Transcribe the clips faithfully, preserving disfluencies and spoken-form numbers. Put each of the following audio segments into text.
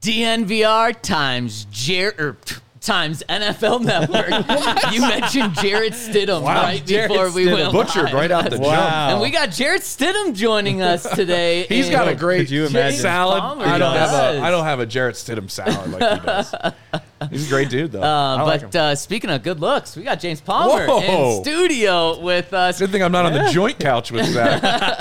D N V R times Jer- times N F L Network. You mentioned Jarrett Stidham wow, right Jarrett before we Stidham. went Butchered live. right out the Wow. jump. And we got Jarrett Stidham joining us today. He's And got a great Could you imagine? salad. Palmer I don't have does. a I don't have a Jarrett Stidham salad like he does. He's a great dude though. Uh, I like but him. uh, speaking of good looks, we got James Palmer Whoa. in studio with us. Good thing I'm not on the joint couch with Zach.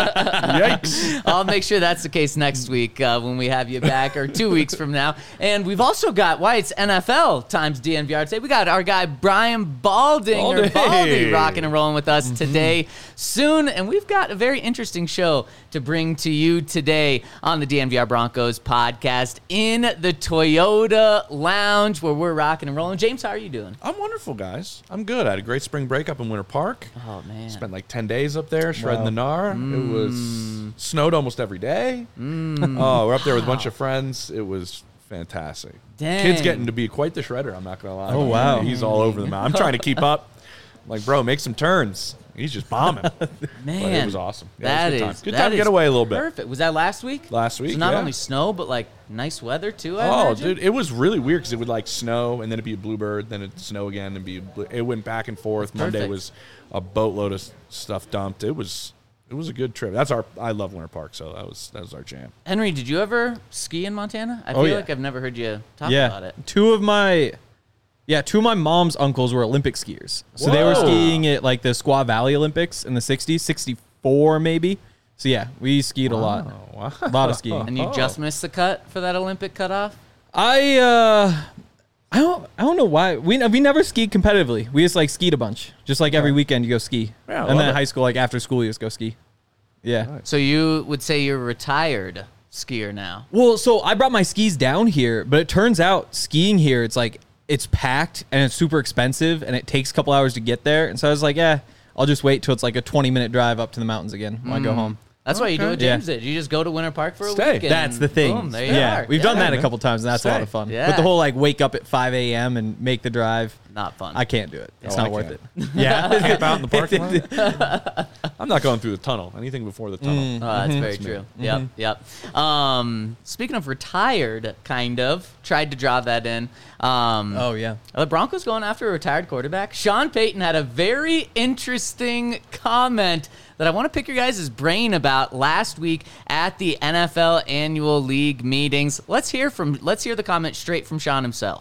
Yikes. I'll make sure that's the case next week uh, when we have you back, or two weeks from now. And we've also got why it's N F L times D N V R today. We got our guy Brian Balding, or Baldy. Baldy, rocking and rolling with us today soon. And we've got a very interesting show to bring to you today on the D N V R Broncos podcast in the Toyota Lounge, where we're rocking and rolling. James, how are you doing? I'm wonderful, guys. I'm good. I had a great spring break up in Winter Park. Oh, man. Spent like ten days up there shredding Wow. the gnar. It was snowed almost every day. Oh, we're up there with a bunch of friends. It was fantastic. Dang. Kid's getting to be quite the shredder, I'm not going to lie. Oh, wow. He's all over the map. I'm trying to keep up. I'm like, bro, make some turns. He's just bombing. Man, But it was awesome. Yeah, that it was a good is time. Good that time to get is away a little bit. Perfect. Was that last week? Last week, So not yeah. only snow, but like nice weather too. I Oh, imagine? dude, it was really weird because it would like snow and then it'd be a bluebird, then it'd snow again and be a blue. It went back and forth. Monday perfect. was a boatload of stuff dumped. It was it was a good trip. That's our I love Winter Park, so that was that was our jam. Henry, did you ever ski in Montana? I Oh, feel yeah. like I've never heard you talk yeah. about it. Two of my, yeah, two of my mom's uncles were Olympic skiers. So they were Whoa. skiing at like the Squaw Valley Olympics in the sixties, sixty-four maybe. So yeah, we skied a lot. Oh, wow. A lot of skiing. And you Oh. just missed the cut for that Olympic cutoff? I uh I don't I don't know why. We we never skied competitively. We just like skied a bunch. Just like every weekend you go ski. Yeah, I and love then it. high school, like after school you just go ski. Yeah. So you would say you're a retired skier now. Well, so I brought my skis down here, but it turns out skiing here, it's like it's packed and it's super expensive and it takes a couple hours to get there. And so I was like, yeah, I'll just wait till it's like a twenty minute drive up to the mountains again when I go home. That's why you do what Yeah. James did. You just go to Winter Park for a Stay. week. and That's the thing. Boom, there you yeah, are. we've done that a man. couple times and that's a lot Stay. of fun. Yeah. But the whole like wake up at five a.m. and make the drive, Not fun. I can't do it. It's Oh, not I worth can. it. Yeah. Camp out in the parking lot. I'm not going through the tunnel. Anything before the tunnel. Oh, that's very true. Yep, yep. Um, speaking of retired, kind of, tried to draw that in. Um, Oh, yeah. Are the Broncos going after a retired quarterback? Sean Payton had a very interesting comment that I want to pick your guys' brain about last week at the N F L Annual League meetings. Let's hear from. Let's hear the comment straight from Sean himself.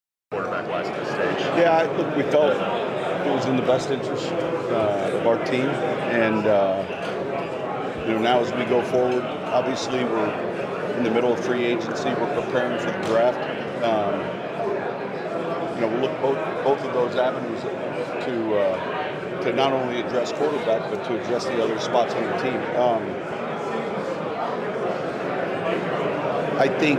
Yeah, I- look, we felt it was in the best interest uh, of our team, and uh, you know, now as we go forward, obviously we're in the middle of free agency. We're preparing for the draft. Um, you know, we'll look both both of those avenues to uh, to not only address quarterback, but to address the other spots on the team. Um, I think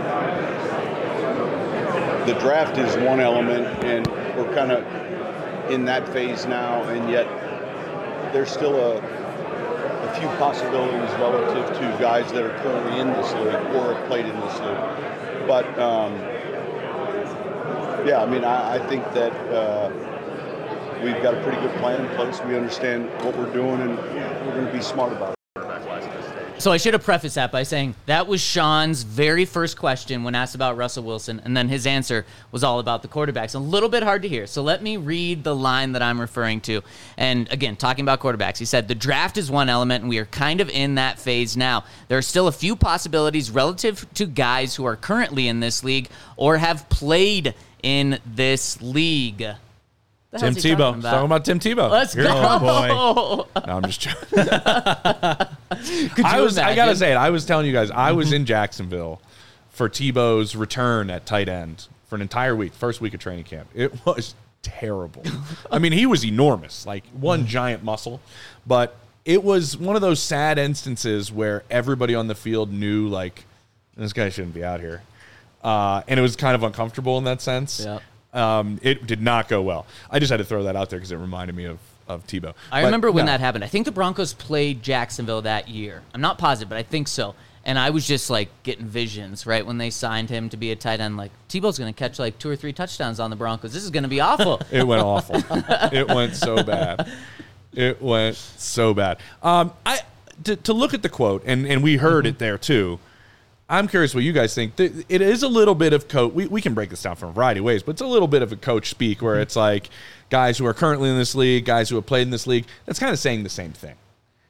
the draft is one element, and we're kind of in that phase now, and yet there's still a, a few possibilities relative to guys that are currently in this league or have played in this league. But, um, yeah, I mean, I, I think that uh, we've got a pretty good plan in place. We understand what we're doing, and we're going to be smart about it. So I should have prefaced that by saying that was Sean's very first question when asked about Russell Wilson, and then his answer was all about the quarterbacks. A little bit hard to hear, so let me read the line that I'm referring to. And again, talking about quarterbacks, he said, the draft is one element, and we are kind of in that phase now. There are still a few possibilities relative to guys who are currently in this league or have played in this league. The Tim hell's he Tebow. talking Talking about Tim Tebow. Let's Here- go. Oh, No, I'm just joking. Could I you was. I gotta imagine? say it. I was telling you guys. I was in Jacksonville for Tebow's return at tight end for an entire week, first week of training camp. It was terrible. I mean, he was enormous, like one giant muscle, but it was one of those sad instances where everybody on the field knew, like, this guy shouldn't be out here, uh, and it was kind of uncomfortable in that sense. Yep. Um, it did not go well. I just had to throw that out there because it reminded me of of Tebow. I But, remember when no. that happened. I think the Broncos played Jacksonville that year. I'm not positive, but I think so. And I was just like getting visions, right, when they signed him to be a tight end. Like, Tebow's going to catch like two or three touchdowns on the Broncos. This is going to be awful. It went awful. It went so bad. It went so bad. Um, I to, to look at the quote, and, and we heard it there too. I'm curious what you guys think. It is a little bit of coach. We, we can break this down from a variety of ways, but it's a little bit of a coach speak where it's like guys who are currently in this league, guys who have played in this league, that's kind of saying the same thing.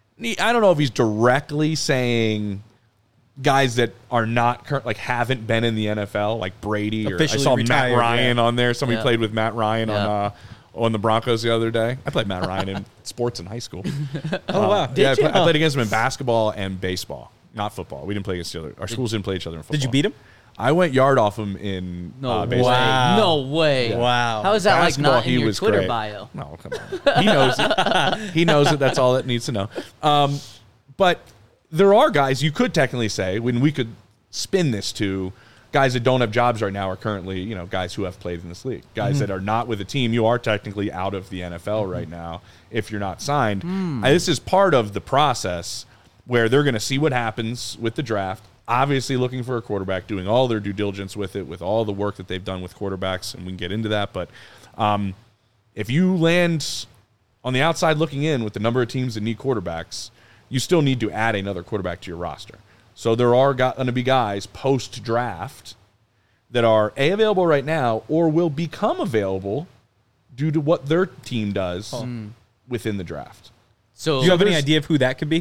I don't know if he's directly saying guys that are not current, like haven't been in the N F L, like Brady, or Officially I saw retired, Matt Ryan yeah. on there. Somebody Yeah. played with Matt Ryan Yeah. on uh, on the Broncos the other day. I played Matt Ryan in sports in high school. Oh, wow. yeah, I, Did you? play, I played against him in basketball and baseball, not football. We didn't play against each other. Our schools didn't play each other in football. Did you beat him? I went yard off him in No uh, way. baseball. Wow. No way. Wow. How is that like Basketball, not in he your was Twitter great. bio? No, come on. He knows it. He knows it. That's all it needs to know. Um, but there are guys you could technically say, when we could spin this to guys that don't have jobs right now are currently, you know, guys who have played in this league. Guys Mm-hmm. that are not with a team, you are technically out of the N F L Mm-hmm. right now if you're not signed. Mm. Uh, this is part of the process where they're going to see what happens with the draft. Obviously looking for a quarterback, doing all their due diligence with it, with all the work that they've done with quarterbacks, and we can get into that. But um, if you land on the outside looking in with the number of teams that need quarterbacks, you still need to add another quarterback to your roster. So there are going to be guys post-draft that are A, available right now or will become available due to what their team does within the draft. So Do you have any there's- idea of who that could be?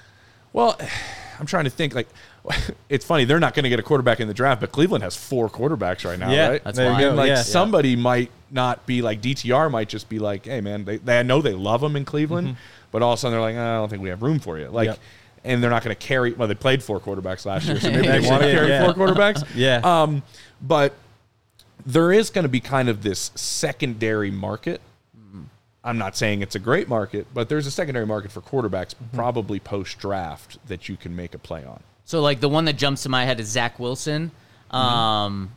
Well, I'm trying to think. Like, it's funny. They're not going to get a quarterback in the draft, but Cleveland has four quarterbacks right now, Yeah, right? That's there you fine. go. And like yeah. somebody might not be like D T R might just be like, hey man, they, they know they love him in Cleveland, but all of a sudden they're like, I don't think we have room for you. Like, Yep. and they're not going to carry. Well, they played four quarterbacks last year, so maybe they Actually want to did, carry yeah. four quarterbacks. Yeah. Um, but there is going to be kind of this secondary market. I'm not saying it's a great market, but there's a secondary market for quarterbacks, probably post draft, that you can make a play on. So, like, the one that jumps to my head is Zach Wilson. Um,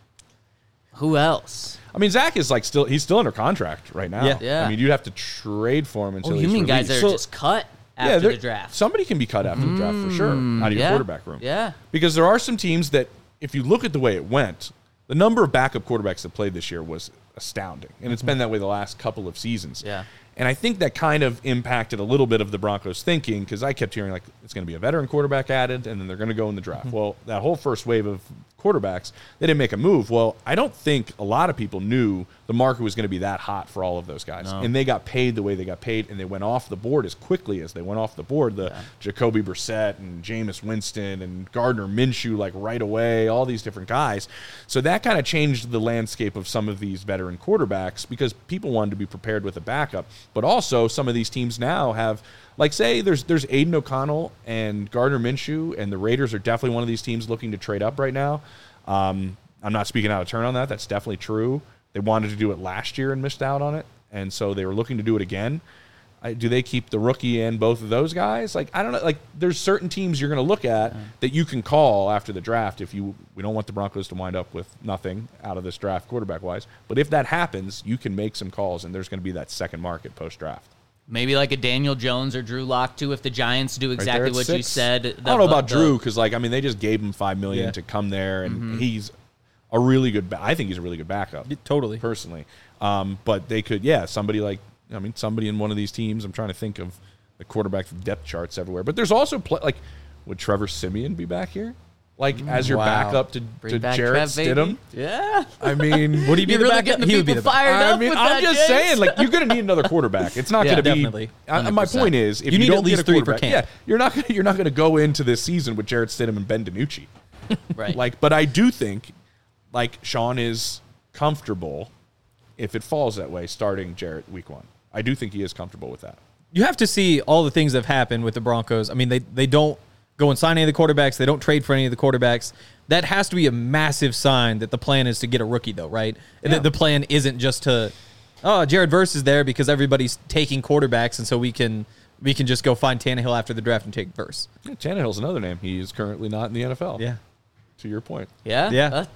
who else? I mean, Zach is like still he's still under contract right now. Yeah. Yeah. I mean, you'd have to trade for him until Oh, he's you mean guys released. that are So- just cut Yeah, after there- the draft? Somebody can be cut after the draft for sure out of your yeah. quarterback room. Yeah. Because there are some teams that, if you look at the way it went, the number of backup quarterbacks that played this year was astounding. And it's been that way the last couple of seasons. Yeah. And I think that kind of impacted a little bit of the Broncos' thinking, because I kept hearing, like, it's going to be a veteran quarterback added, and then they're going to go in the draft. Well, that whole first wave of quarterbacks, they didn't make a move. Well, I don't think a lot of people knew the market was going to be that hot for all of those guys. No. And they got paid the way they got paid, and they went off the board as quickly as they went off the board. The Jacoby Brissett and Jameis Winston and Gardner Minshew, like, right away, all these different guys. So that kind of changed the landscape of some of these veteran quarterbacks, because people wanted to be prepared with a backup. But also, some of these teams now have, like, say there's there's Aiden O'Connell and Gardner Minshew, and the Raiders are definitely one of these teams looking to trade up right now. Um, I'm not speaking out of turn on that. That's definitely true. They wanted to do it last year and missed out on it, and so they were looking to do it again. I, do they keep the rookie and both of those guys? Like, I don't know. Like, there's certain teams you're going to look at that you can call after the draft if you. We don't want the Broncos to wind up with nothing out of this draft quarterback wise. But if that happens, you can make some calls, and there's going to be that second market post draft. Maybe like a Daniel Jones or Drew Lock too, if the Giants do exactly what you said. I don't know about Drew, because, like, I mean, they just gave him five million Yeah. to come there, and he's a really good. Ba- I think he's a really good backup. Yeah, totally. personally. Um, but they could, yeah, somebody like, I mean, somebody in one of these teams. I'm trying to think of the quarterback depth charts everywhere. But there's also play, like, would Trevor Siemian be back here, like as your Wow. backup to, Bring to back Jarrett Trev, baby. Stidham? Yeah. I mean, Would he be You're the really backup? getting the He would be people the backup. fired I up mean, with I'm that, just James. saying, like, you're going to need another quarterback. It's not Yeah, going to be. definitely. I, my one hundred percent. point is, if You you, need don't at least get a three per quarterback, camp. yeah, you're not gonna, you're not going to go into this season with Jarrett Stidham and Ben DiNucci. Right. Like, but I do think, like, Sean is comfortable if it falls that way, starting Jarrett week one. I do think he is comfortable with that. You have to see all the things that have happened with the Broncos. I mean, they, they don't go and sign any of the quarterbacks. They don't trade for any of the quarterbacks. That has to be a massive sign that the plan is to get a rookie, though, right? And Yeah. that the plan isn't just to, oh, Jared Verse is there because everybody's taking quarterbacks, and so we can we can just go find Tannehill after the draft and take Verse. Yeah, Tannehill's another name. He is currently not in the N F L. Yeah. To your point. Yeah. Yeah. Uh,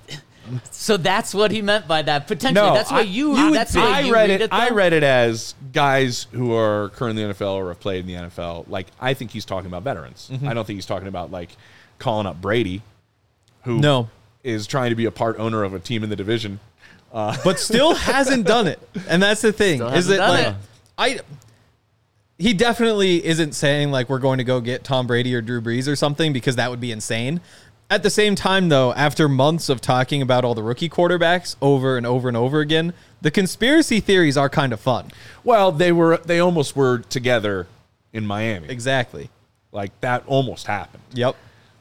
so that's what he meant by that. Potentially, that's what you. that's the way I you read read it. though? I read it as guys who are currently in the N F L or have played in the N F L. Like, I think he's talking about veterans. I don't think he's talking about, like, calling up Brady, who No. is trying to be a part owner of a team in the division. But still hasn't done it. And that's the thing. Still Is hasn't it done like it. I he definitely isn't saying like we're going to go get Tom Brady or Drew Brees or something, because that would be insane. At the same time, though, after months of talking about all the rookie quarterbacks over and over and over again, the conspiracy theories are kind of fun. Well, they were they almost were together in Miami. Exactly. Like, that almost happened. Yep.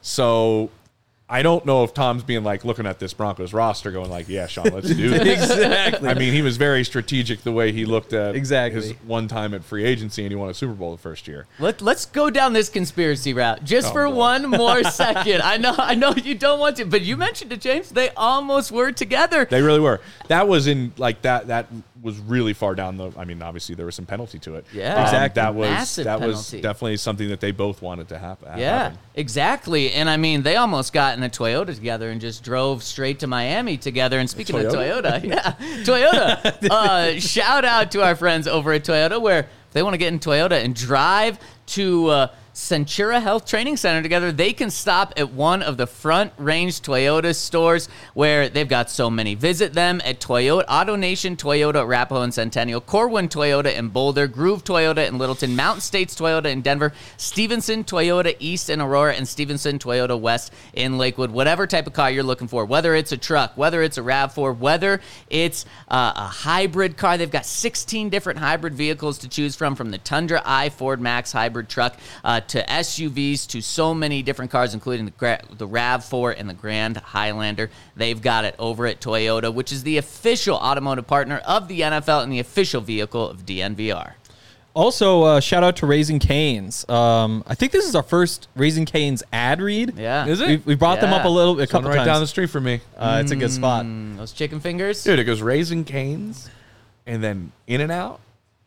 So I don't know if Tom's being like looking at this Broncos roster going like, yeah, Sean, let's do this. Exactly. I mean, he was very strategic the way he looked at Exactly. his one time at free agency, and he won a Super Bowl the first year. Let, let's go down this conspiracy route just Oh, for boy. one more second. I know I know you don't want to, but you mentioned it, James. They almost were together. They really were. That was in like that. That was really far down the. I mean, obviously there was some penalty to it. Yeah. Um, Exactly. That was Massive that was penalty. definitely something that they both wanted to happen. Yeah, happen. exactly. And I mean, they almost got in a Toyota together and just drove straight to Miami together. And speaking of Toyota? Toyota, yeah, Toyota. Uh, shout out to our friends over at Toyota, where if they want to get in Toyota and drive to uh, Centura Health Training Center together, they can stop at one of the Front Range Toyota stores where they've got so many. Visit them at Toyota, Auto Nation, Toyota, Arapahoe and Centennial, Corwin Toyota in Boulder, Groove Toyota in Littleton, Mountain States Toyota in Denver, Stevenson Toyota East in Aurora, and Stevenson Toyota West in Lakewood. Whatever type of car you're looking for, whether it's a truck, whether it's a RAV four, whether it's uh, a hybrid car, they've got sixteen different hybrid vehicles to choose from, from the Tundra I Ford Max hybrid truck uh, to S U Vs, to so many different cars, including the, Gra- the RAV four and the Grand Highlander. They've got it over at Toyota, which is the official automotive partner of the N F L and the official vehicle of D N V R. Also, uh, shout out to Raising Cane's. Um, I think this is our first Raising Cane's ad read. Yeah. Is it? We, we brought them Yeah. up a little, a One couple right times. down the street from me, uh, it's a good spot. Mm, those chicken fingers. dude. It goes Raising Cane's, and then In and Out,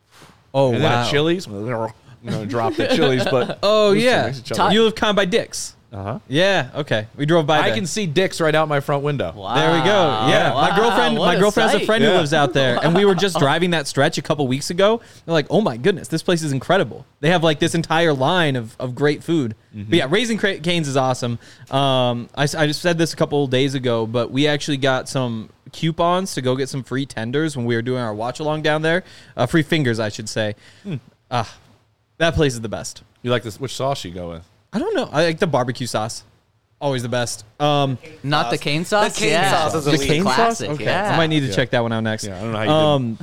Oh, and wow. then a Chili's. You know, drop the Chili's, but Oh, Rooster yeah. makes it Todd- You live kind of by Dick's. Uh huh. Yeah, okay. We drove by I there. can see Dick's right out my front window. Wow. There we go. Yeah, Wow, my girlfriend. what My a girlfriend has a sight. friend who Yeah. lives out there, and we were just driving that stretch a couple weeks ago. They're like, "Oh my goodness, this place is incredible." They have like this entire line of, of great food. But yeah, Raising Cra- Cane's is awesome. Um, I, s- I just said this a couple days ago, but we actually got some coupons to go get some free tenders when we were doing our watch along down there. Uh, free fingers, I should say. Ah, that place is the best. You like this? Which sauce you go with? I don't know. I like the barbecue sauce. Always the best. Um, Not the cane sauce? The cane yeah. sauce is The elite. cane sauce? Classic, Okay. yeah. I might need to Yeah. check that one out next. Yeah, I don't know how you Um,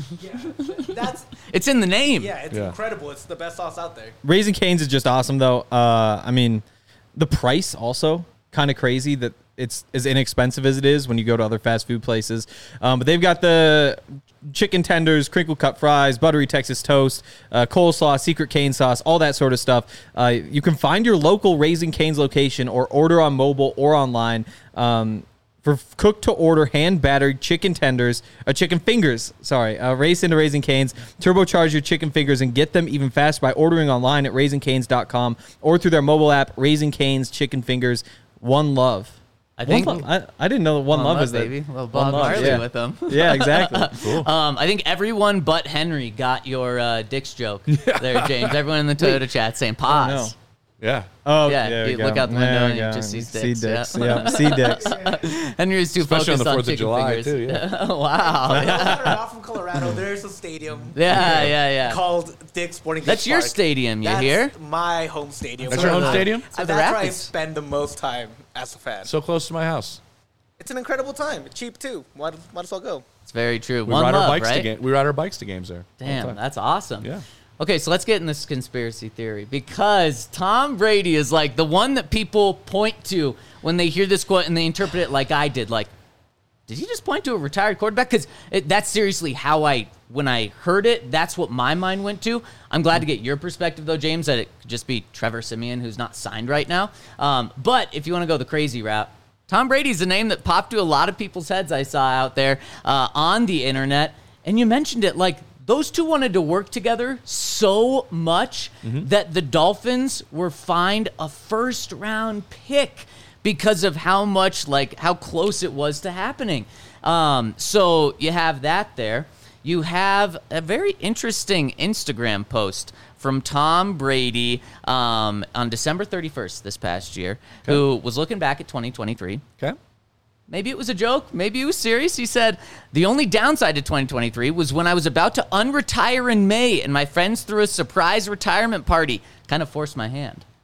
That's It's in the name. yeah, it's Yeah. incredible. It's the best sauce out there. Raising Cane's is just awesome, though. Uh, I mean, the price also kind of crazy that it's as inexpensive as it is when you go to other fast food places. Um, but they've got the chicken tenders, crinkle cut fries, buttery Texas toast, uh, coleslaw, secret cane sauce, all that sort of stuff. Uh, you can find your local Raising Cane's location or order on mobile or online. Um, For cooked to order, hand battered chicken tenders, uh, chicken fingers, sorry, uh, race into Raising Cane's. Turbocharge your chicken fingers and get them even faster by ordering online at raising canes dot com or through their mobile app, Raising Cane's Chicken Fingers. One love. I One think Love. I, I didn't know that One, Love is that. baby. Little One Bob Love, Marley yeah. with them. Yeah, exactly. Um, I think everyone but Henry got your uh, Dick's joke there, James. Everyone in the Toyota chat saying pause. no. Yeah. Oh, Yeah, there we you go. look out the window There and we you go. just see See dicks, dicks. yeah. Yeah, see dicks. Henry's too Especially on focused the on Fourth of chicken July, fingers. too, yeah. Wow. Believe Yeah, it or not, from Colorado, there's a stadium. yeah, yeah. yeah. Called Dick's Sporting Goods That's your Park. stadium, you That's hear? my home stadium. That's your home stadium? So the that's where I Rapids. spend the most time as a fan. So close to my house. It's an incredible time. It's cheap too. Might, might as well go. It's very true. We One ride love, our bikes right? to game. We ride our bikes to games there. all the Damn, time. that's awesome. Yeah. Okay, so let's get in this conspiracy theory because Tom Brady is like the one that people point to when they hear this quote and they interpret it like I did. Like, did he just point to a retired quarterback? Because that's seriously how I, when I heard it, that's what my mind went to. I'm glad to get your perspective, though, James, that it could just be Trevor Siemian, who's not signed right now. Um, but if you want to go the crazy route, Tom Brady's a name that popped to a lot of people's heads I saw out there uh, on the internet. And you mentioned it, like, those two wanted to work together so much that the Dolphins were fined a first round pick because of how much, like, how close it was to happening. Um, so you have that there. You have a very interesting Instagram post from Tom Brady um, on December thirty-first this past year, who was looking back at twenty twenty-three. Okay. Maybe it was a joke. Maybe it was serious. He said, the only downside to twenty twenty-three was when I was about to unretire in May and my friends threw a surprise retirement party. Kind of forced my hand.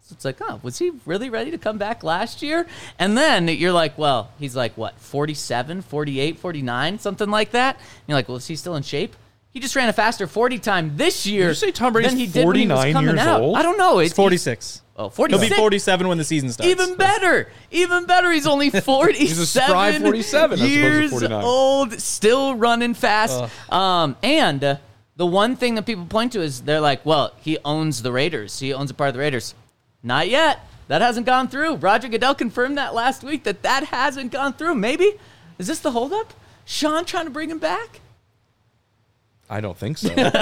So it's like, oh, was he really ready to come back last year? And then you're like, well, he's like, what, forty-seven, forty-eight, forty-nine, something like that? And you're like, well, is he still in shape? He just ran a faster forty time this year. Did you say Tom Brady's than he did when he was forty-nine coming years out. old? I don't know. It's forty-six. Oh, He'll forty-six. be forty-seven when the season starts. Even better. Even better. He's only forty-seven, He's a spry forty-seven as opposed to years forty-nine. old, still running fast. Um, and uh, the one thing that people point to is they're like, well, he owns the Raiders. He owns a part of the Raiders. Not yet. That hasn't gone through. Roger Goodell confirmed that last week that that hasn't gone through. Maybe. Is this the holdup? Sean trying to bring him back? I don't think so. Yeah.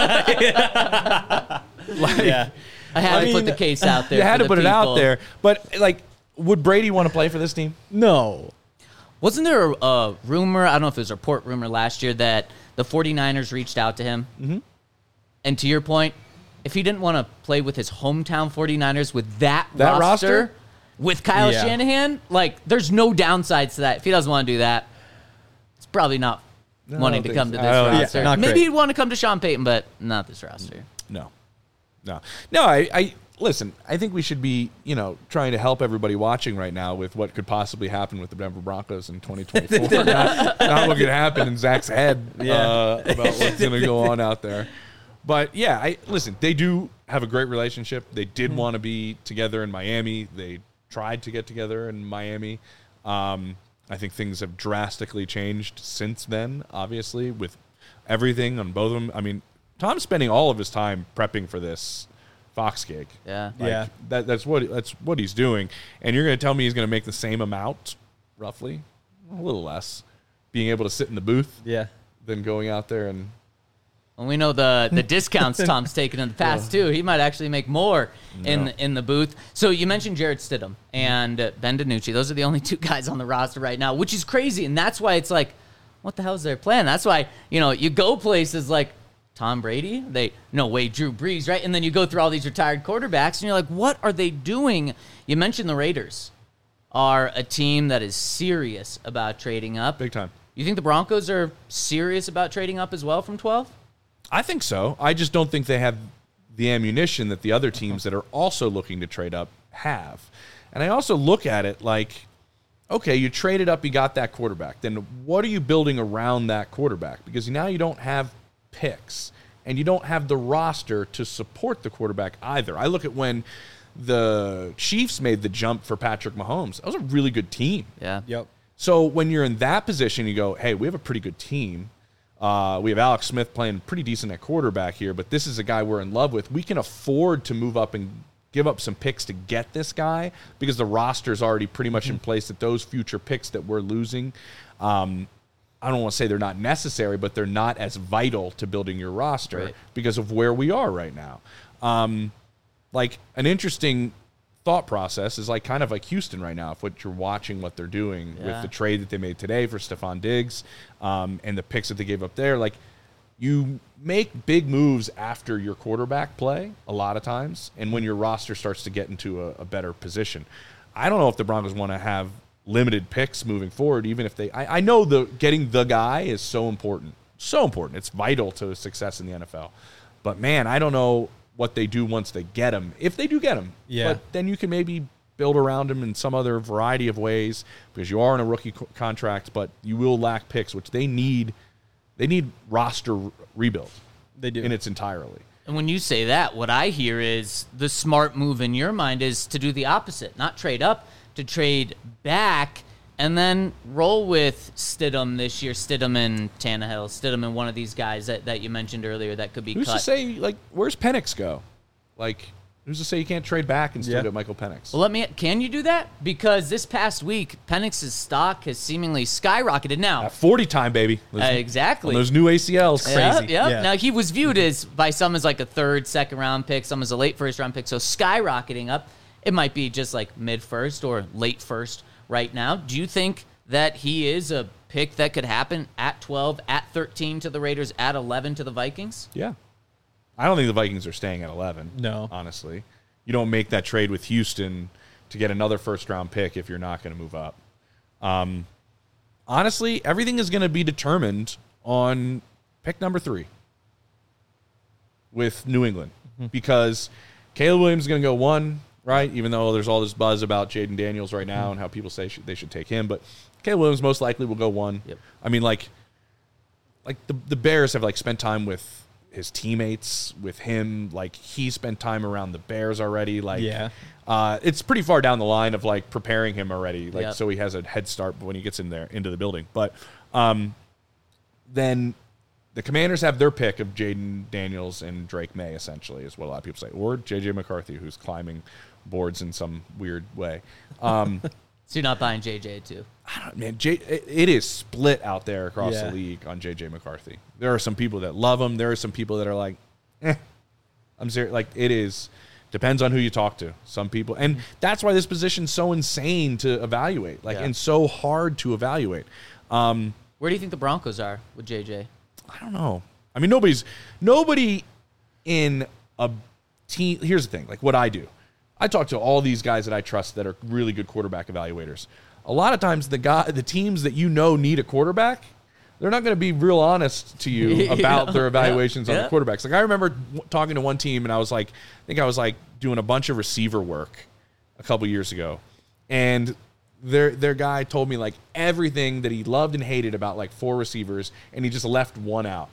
I had I to mean, put the case out there. You had for to the put it out people. there. But, like, would Brady want to play for this team? No. Wasn't there a, a rumor, I don't know if it was a report rumor last year, that the 49ers reached out to him? Mm-hmm. And to your point, if he didn't want to play with his hometown 49ers with that, That roster, roster? with Kyle Yeah. Shanahan, like, there's no downsides to that. If he doesn't want to do that, it's probably not No, I wanting don't to think come to so. this I don't- yeah, roster. not Maybe great. he'd want to come to Sean Payton, but not this roster. No. No. No, I, I listen, I think we should be, you know, trying to help everybody watching right now with what could possibly happen with the Denver Broncos in twenty twenty-four. not, not what could happen in Zach's head uh, about what's going to go on out there. But yeah, I listen, they do have a great relationship. They did want to be together in Miami. They tried to get together in Miami. Um, I think things have drastically changed since then, obviously, with everything on both of them. I mean, Tom's spending all of his time prepping for this Fox gig. Yeah. Like, Yeah. That, that's what that's what he's doing. And you're going to tell me he's going to make the same amount, roughly, a little less, being able to sit in the booth Yeah. than going out there and And we know the the discounts Tom's taken in the past too. He might actually make more in No. in the booth. So you mentioned Jarrett Stidham and uh, Ben DiNucci. Those are the only two guys on the roster right now, which is crazy. And that's why it's like, what the hell is their plan? That's why, you know, you go places like Tom Brady, they no way Drew Brees, right? And then you go through all these retired quarterbacks, and you're like, what are they doing? You mentioned the Raiders are a team that is serious about trading up. big time. You think the Broncos are serious about trading up as well from twelve? I think so. I just don't think they have the ammunition that the other teams that are also looking to trade up have. And I also look at it like, okay, you traded up, you got that quarterback. Then what are you building around that quarterback? Because now you don't have picks and you don't have the roster to support the quarterback either. I look at when the Chiefs made the jump for Patrick Mahomes. That was a really good team. Yeah. Yep. So when you're in that position, you go, hey, we have a pretty good team. Uh, we have Alex Smith playing pretty decent at quarterback here, but this is a guy we're in love with. We can afford to move up and give up some picks to get this guy because the roster's already pretty much in place that those future picks that we're losing, um, I don't want to say they're not necessary, but they're not as vital to building your roster Right. because of where we are right now. Um, like an interesting thought process is like kind of like Houston right now. If what you're watching, what they're doing Yeah. with the trade that they made today for Stephon Diggs um, and the picks that they gave up there, like you make big moves after your quarterback play a lot of times, and when your roster starts to get into a, a better position. I don't know if the Broncos want to have limited picks moving forward, even if they. I, I know the getting the guy is so important, so important. It's vital to success in the N F L. But man, I don't know what they do once they get him, if they do get him. Yeah. But then you can maybe build around him in some other variety of ways because you are in a rookie co- contract, but you will lack picks, which they need. They need roster re- rebuild They do. in its entirely. And when you say that, what I hear is the smart move in your mind is to do the opposite, not trade up, to trade back and then roll with Stidham this year, Stidham and Tannehill, Stidham and one of these guys that, that you mentioned earlier that could be Who's cut. to say, like, where's Penix go? Like, who's to say you can't trade back and still Yeah. get Michael Penix? Well, let me. Can you do that? Because this past week, Penix's stock has seemingly skyrocketed. Now, At forty time, baby. uh, exactly. On those new A C Ls. Yep, Crazy. yep. Yeah. Now he was viewed as by some as like a third, second round pick, some as a late first round pick. So skyrocketing up. It might be just like mid first or late first right now. Do you think that he is a pick that could happen at twelve, at thirteen to the Raiders, at eleven to the Vikings? Yeah. I don't think the Vikings are staying at eleven. No. Honestly. You don't make that trade with Houston to get another first round pick if you're not going to move up. Um, honestly, everything is going to be determined on pick number three with New England because Caleb Williams is going to go one, right? Even though there's all this buzz about Jaden Daniels right now mm-hmm. and how people say sh- they should take him, but Caleb Williams most likely will go one. Yep. I mean, like, like the the Bears have like spent time with his teammates, with him. Like he spent time around the Bears already. Like, yeah, uh, it's pretty far down the line of like preparing him already. Like, yep. so he has a head start when he gets in there into the building. But um, then the Commanders have their pick of Jaden Daniels and Drake May, essentially, is what a lot of people say, or J J McCarthy, who's climbing boards in some weird way. Um, so you're not buying J J too? I don't, man. J, it, it is split out there across yeah. the league on J J McCarthy. There are some people that love him. There are some people that are like, eh. I'm serious. Like it is. Depends on who you talk to. Some people, and that's why this position's so insane to evaluate, like, yeah. and so hard to evaluate. Um, Where do you think the Broncos are with J J? I don't know. I mean, nobody's nobody in a team. Here's the thing: like what I do, I talk to all these guys that I trust that are really good quarterback evaluators. A lot of times, the guy, the teams that you know need a quarterback, they're not going to be real honest to you about yeah. their evaluations yeah. on the quarterbacks. Like I remember w- talking to one team, and I was like, I think I was like doing a bunch of receiver work a couple years ago, and their their guy told me like everything that he loved and hated about like four receivers, and he just left one out.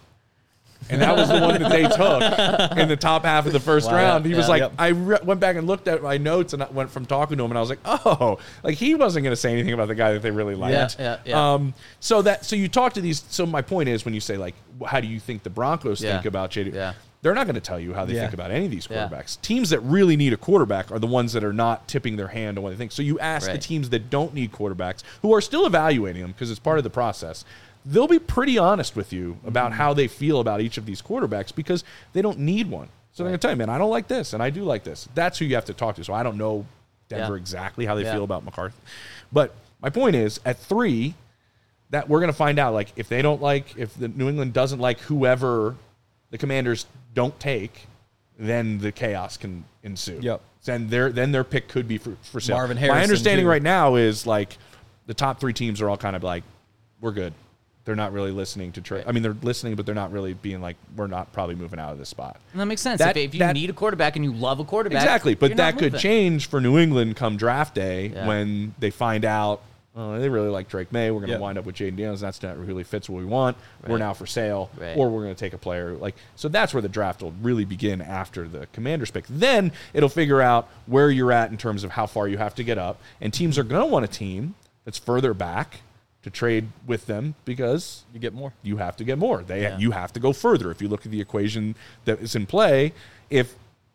And that was the one that they took in the top half of the first wow. round. He yeah, was like, yep. I re- went back and looked at my notes and I went from talking to him, and I was like, oh, like he wasn't going to say anything about the guy that they really liked. Yeah, yeah, yeah. Um, so that so you talk to these. So my point is, when you say like, how do you think the Broncos Yeah. think about J D? Yeah. They're not going to tell you how they Yeah. think about any of these Yeah. quarterbacks. Teams that really need a quarterback are the ones that are not tipping their hand on what they think. So you ask the Right. teams that don't need quarterbacks, who are still evaluating them because it's part of the process. They'll be pretty honest with you about how they feel about each of these quarterbacks because they don't need one. So they're going to tell you, man, I don't like this and I do like this. That's who you have to talk to. So I don't know Denver Yeah. exactly how they Yeah. feel about McCarthy. But my point is, at three, that we're going to find out, like, if they don't like, if the New England doesn't like whoever the Commanders don't take, then the chaos can ensue. Yep. Then their then their pick could be for, for sale. Marvin My Harrison, understanding too. right now is like the top three teams are all kind of like, we're good. They're not really listening to trade. I mean, they're listening, but they're not really being like, we're not probably moving out of this spot. And that makes sense. That- if, if you that- need a quarterback and you love a quarterback, Exactly, but you're not that could moving. change for New England come draft day Yeah. when they find out, oh, they really like Drake May. We're going to Yep. wind up with Jaden Daniels. That's not really fits what we want. We're Right. now for sale, Right. or we're going to take a player. Like so, that's where the draft will really begin after the Commanders pick. Then it'll figure out where you're at in terms of how far you have to get up, and teams are going to want a team that's further back to trade with them because You get more. you have to get more. They Yeah. you have to go further. If you look at the equation that is in play, if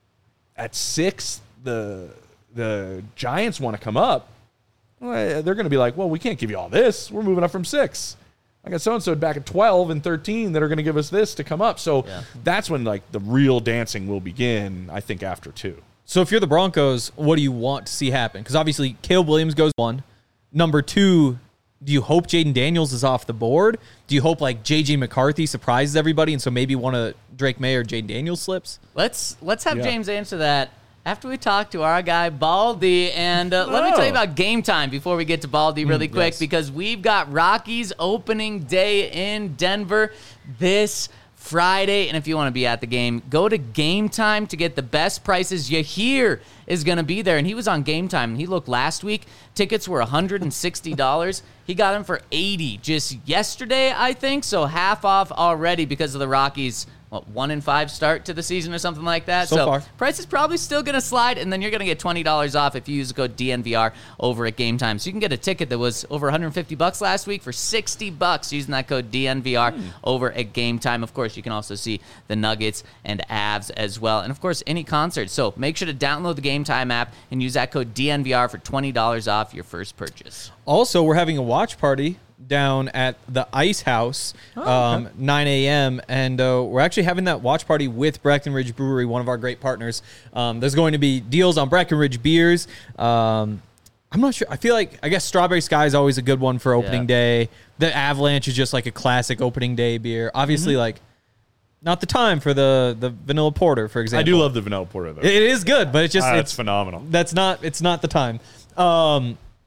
at six the the Giants want to come up, well, they're going to be like, well, we can't give you all this. We're moving up from six. I got so and so back at twelve and thirteen that are going to give us this to come up. So Yeah. that's when like the real dancing will begin. I think after two. So if you're the Broncos, what do you want to see happen? Because obviously Caleb Williams goes one. Number two, do you hope Jaden Daniels is off the board? Do you hope like J J McCarthy surprises everybody and so maybe one of Drake May or Jaden Daniels slips? Let's let's have Yeah. James answer that after we talk to our guy Baldy. And uh, let me Oh. tell you about Game Time before we get to Baldy really quick, yes. because we've got Rockies opening day in Denver this Friday. And if you want to be at the game, go to Game Time to get the best prices. You hear is going to be there. And he was on Game Time, and he looked last week. Tickets were one hundred sixty dollars. He got them for eighty dollars just yesterday, I think. So half off already because of the Rockies. What, one in five start to the season or something like that? So far. Price is probably still going to slide, and then you're going to get twenty dollars off if you use the code D N V R over at Game Time. So you can get a ticket that was over one hundred fifty bucks last week for sixty bucks using that code D N V R over at Game Time. Of course, you can also see the Nuggets and Avs as well, and of course, any concert. So make sure to download the Game Time app and use that code D N V R for twenty dollars off your first purchase. Also, we're having a watch party down at the Ice House, um, nine a.m. And uh, we're actually having that watch party with Breckenridge Brewery, one of our great partners. Um, there's going to be deals on Breckenridge beers. Um, I'm not sure. I feel like, I guess Strawberry Sky is always a good one for opening Yeah. day. The Avalanche is just like a classic opening day beer. Obviously, like, not the time for the, the vanilla porter, for example. I do love the vanilla porter though. It is good, but it's just Ah, it's it's phenomenal. That's not it's not the time. Um,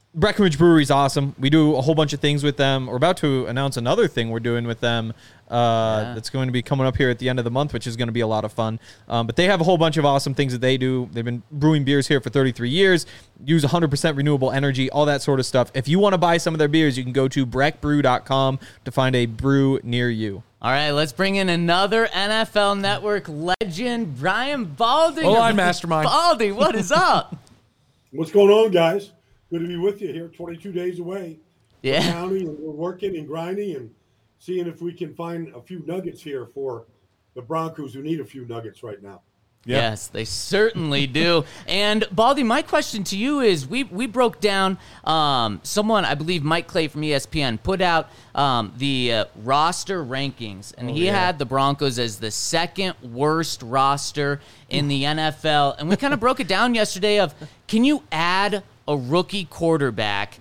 Breckenridge Brewery is awesome. We do a whole bunch of things with them. We're about to announce another thing we're doing with them uh, Yeah. that's going to be coming up here at the end of the month, which is going to be a lot of fun. Um, but they have a whole bunch of awesome things that they do. They've been brewing beers here for thirty-three years, use one hundred percent renewable energy, all that sort of stuff. If you want to buy some of their beers, you can go to breck brew dot com to find a brew near you. All right, let's bring in another N F L Network legend, Brian Baldy. O-line mastermind. Baldy, what is up? What's going on, guys? Good to be with you here. twenty-two days away. Yeah. From County, and we're working and grinding and seeing if we can find a few nuggets here for the Broncos who need a few nuggets right now. Yeah. Yes, they certainly do. And Baldy, my question to you is: we we broke down um, someone, I believe Mike Clay from E S P N, put out um, the uh, roster rankings, and Oh, he yeah. had the Broncos as the second worst roster in the N F L. And we kind of broke it down yesterday. Of can you add a rookie quarterback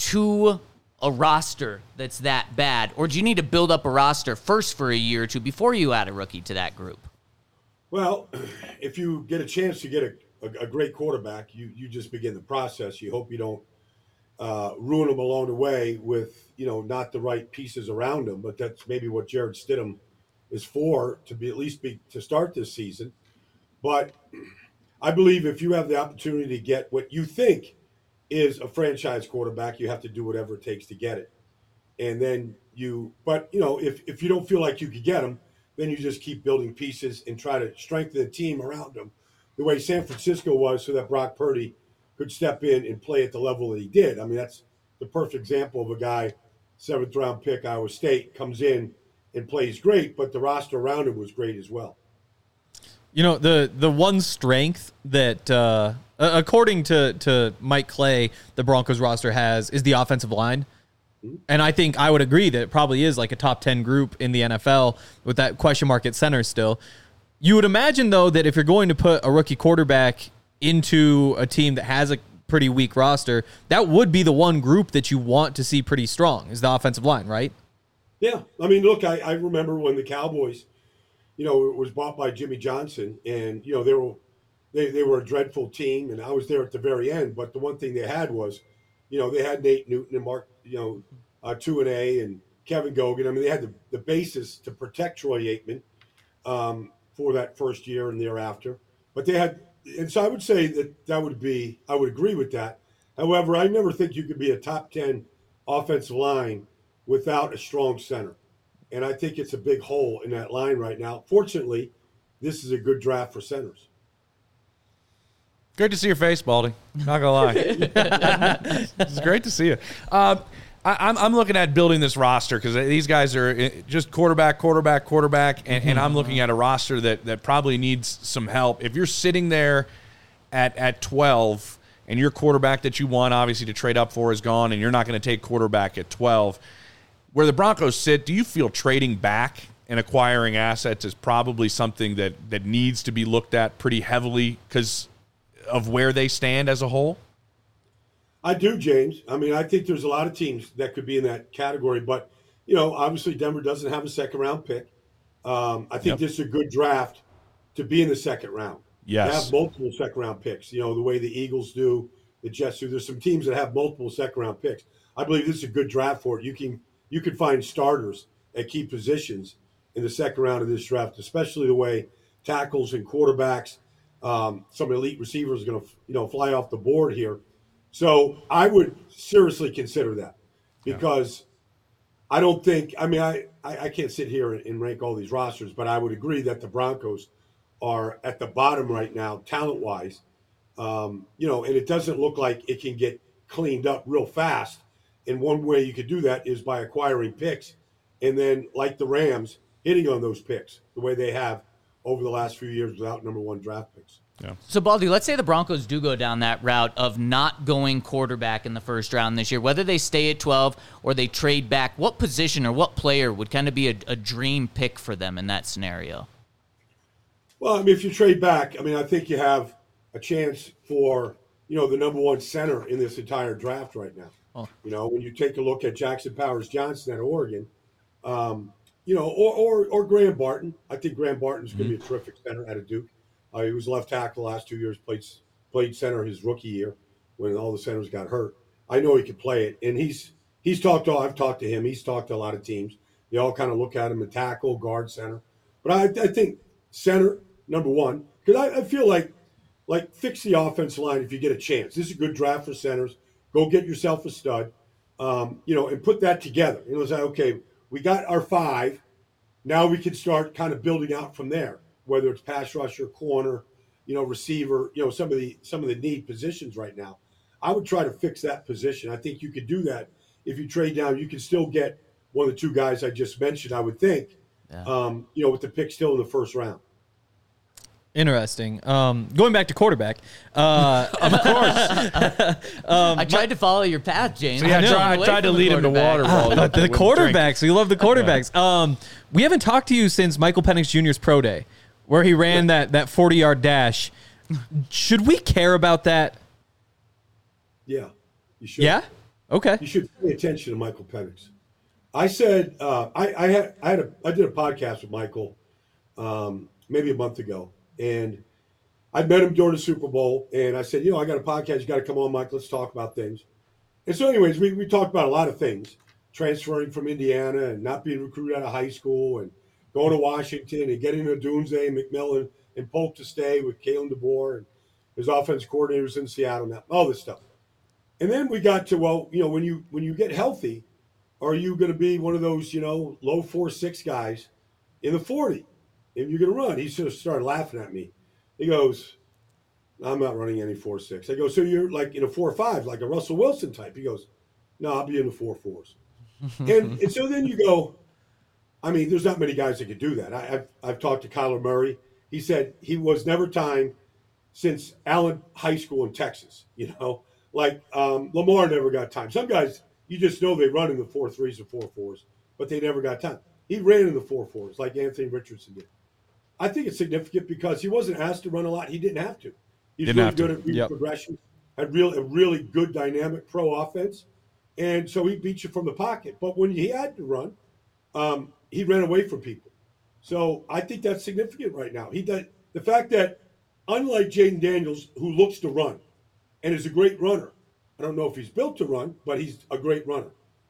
to a roster that's that bad, or do you need to build up a roster first for a year or two before you add a rookie to that group? Well, if you get a chance to get a, a, a great quarterback, you, you just begin the process. You hope you don't uh, ruin them along the way with, you know, not the right pieces around them. But that's maybe what Jared Stidham is for, to be at least be to start this season. But I believe if you have the opportunity to get what you think is a franchise quarterback, you have to do whatever it takes to get it. And then you, but, you know, if, if you don't feel like you could get him, then you just keep building pieces and try to strengthen the team around him the way San Francisco was, so that Brock Purdy could step in and play at the level that he did. I mean, that's the perfect example of a guy, seventh round pick, Iowa State, comes in and plays great, but the roster around him was great as well. You know, the the one strength that, uh, according to, to Mike Clay, the Broncos roster has is the offensive line. And I think I would agree that it probably is like a top ten group in the N F L with that question mark at center still. You would imagine, though, that if you're going to put a rookie quarterback into a team that has a pretty weak roster, that would be the one group that you want to see pretty strong, is the offensive line, right? Yeah. I mean, look, I, I remember when the Cowboys, you know, it was bought by Jimmy Johnson, and, you know, they were, they, they were a dreadful team, and I was there at the very end. But the one thing they had was, you know, they had Nate Newton and Mark, you know, uh, two and A and Kevin Gogan. I mean, they had the, the basis to protect Troy Aikman um, for that first year and thereafter. But they had, and so I would say that that would be, I would agree with that. However, I never think you could be a top ten offensive line without a strong center. And I think it's a big hole in that line right now. Fortunately, this is a good draft for centers. Great to see your face, Baldy. Not gonna lie, it's great to see you. Um, I, I'm I'm looking at building this roster because these guys are just quarterback, quarterback, quarterback, and, and I'm looking at a roster that that probably needs some help. If you're sitting there at at twelve and your quarterback that you want, obviously to trade up for, is gone, and you're not going to take quarterback at twelve, where the Broncos sit, do you feel trading back and acquiring assets is probably something that that needs to be looked at pretty heavily because of where they stand as a whole? I do, James. I mean, I think there's a lot of teams that could be in that category, but, you know, obviously Denver doesn't have a second round pick. Um, I think Yep. this is a good draft to be in the second round. Yes. To have multiple second round picks, you know, the way the Eagles do, the Jets do. There's some teams that have multiple second round picks. I believe this is a good draft for it. You can you can find starters at key positions in the second round of this draft, especially the way tackles and quarterbacks, um, some elite receivers are going to, you know, fly off the board here. So I would seriously consider that because yeah. I don't think, I mean, I, I, I can't sit here and, and rank all these rosters, but I would agree that the Broncos are at the bottom right now, talent-wise. Um, you know, and it doesn't look like it can get cleaned up real fast. And one way you could do that is by acquiring picks and then, like the Rams, hitting on those picks the way they have over the last few years without number one draft picks. Yeah. So, Baldy, let's say the Broncos do go down that route of not going quarterback in the first round this year, whether they stay at twelve or they trade back. What position or what player would kind of be a, a dream pick for them in that scenario? Well, I mean, if you trade back, I mean, I think you have a chance for, you know, the number one center in this entire draft right now. Oh. You know, when you take a look at Jackson Powers Johnson at Oregon, um, you know, or, or or Graham Barton. I think Graham Barton's going to mm-hmm. be a terrific center out of Duke. Uh, he was left tackle the last two years, played played center his rookie year when all the centers got hurt. I know he can play it. And he's he's talked to, I've talked to him. He's talked to a lot of teams. They all kind of look at him and tackle, guard, center. But I, I think center, number one, because I, I feel like, like fix the offensive line if you get a chance. This is a good draft for centers. Go get yourself a stud, um, you know, and put that together. You know, say, okay, we got our five. Now we can start kind of building out from there, whether it's pass rusher, corner, you know, receiver, you know, some of the some of the need positions right now. I would try to fix that position. I think you could do that if you trade down. You can still get one of the two guys I just mentioned, I would think, yeah. um, you know, with the pick still in the first round. Interesting. Um, going back to quarterback, uh, of course. um, I tried to follow your path, James. So yeah, I, try, I tried to lead him to water. Ah, but the quarterbacks, we love the quarterbacks. Um, we haven't talked to you since Michael Penix Junior's pro day, where he ran that that forty-yard dash. Should we care about that? Yeah, you should. Yeah. Okay. You should pay attention to Michael Penix. I said uh, I, I had I had a I did a podcast with Michael um, maybe a month ago, and I met him during the Super Bowl, and I said, you know, I got a podcast. You got to come on, Mike. Let's talk about things. And so, anyways, we we talked about a lot of things, transferring from Indiana and not being recruited out of high school, and going to Washington and getting to Dunze, McMillan, and Polk to stay with Kalen DeBoer and his offense coordinators in Seattle now, all this stuff. And then we got to, well, you know, when you when you get healthy, are you going to be one of those, you know, low four six guys in the forty? And you're going to run. He sort of started laughing at me. He goes, I'm not running any four six. I go, so you're like in a four five, like a Russell Wilson type. He goes, no, I'll be in the four fours. and and so then you go, I mean, there's not many guys that could do that. I, I've I've talked to Kyler Murray. He said he was never timed since Allen High School in Texas, you know. Like um, Lamar never got time. Some guys, you just know they run in the four threes or four fours, but they never got time. He ran in the four fours like Anthony Richardson did. I think it's significant because he wasn't asked to run a lot. He didn't have to. He's didn't really have good to. at reading Yep. progression, had real a really good dynamic pro offense, and so he beat you from the pocket. But when he had to run, um, he ran away from people. So I think that's significant right now. He did, the fact that unlike Jaden Daniels, who looks to run and is a great runner, I don't know if he's built to run, but he's a great runner.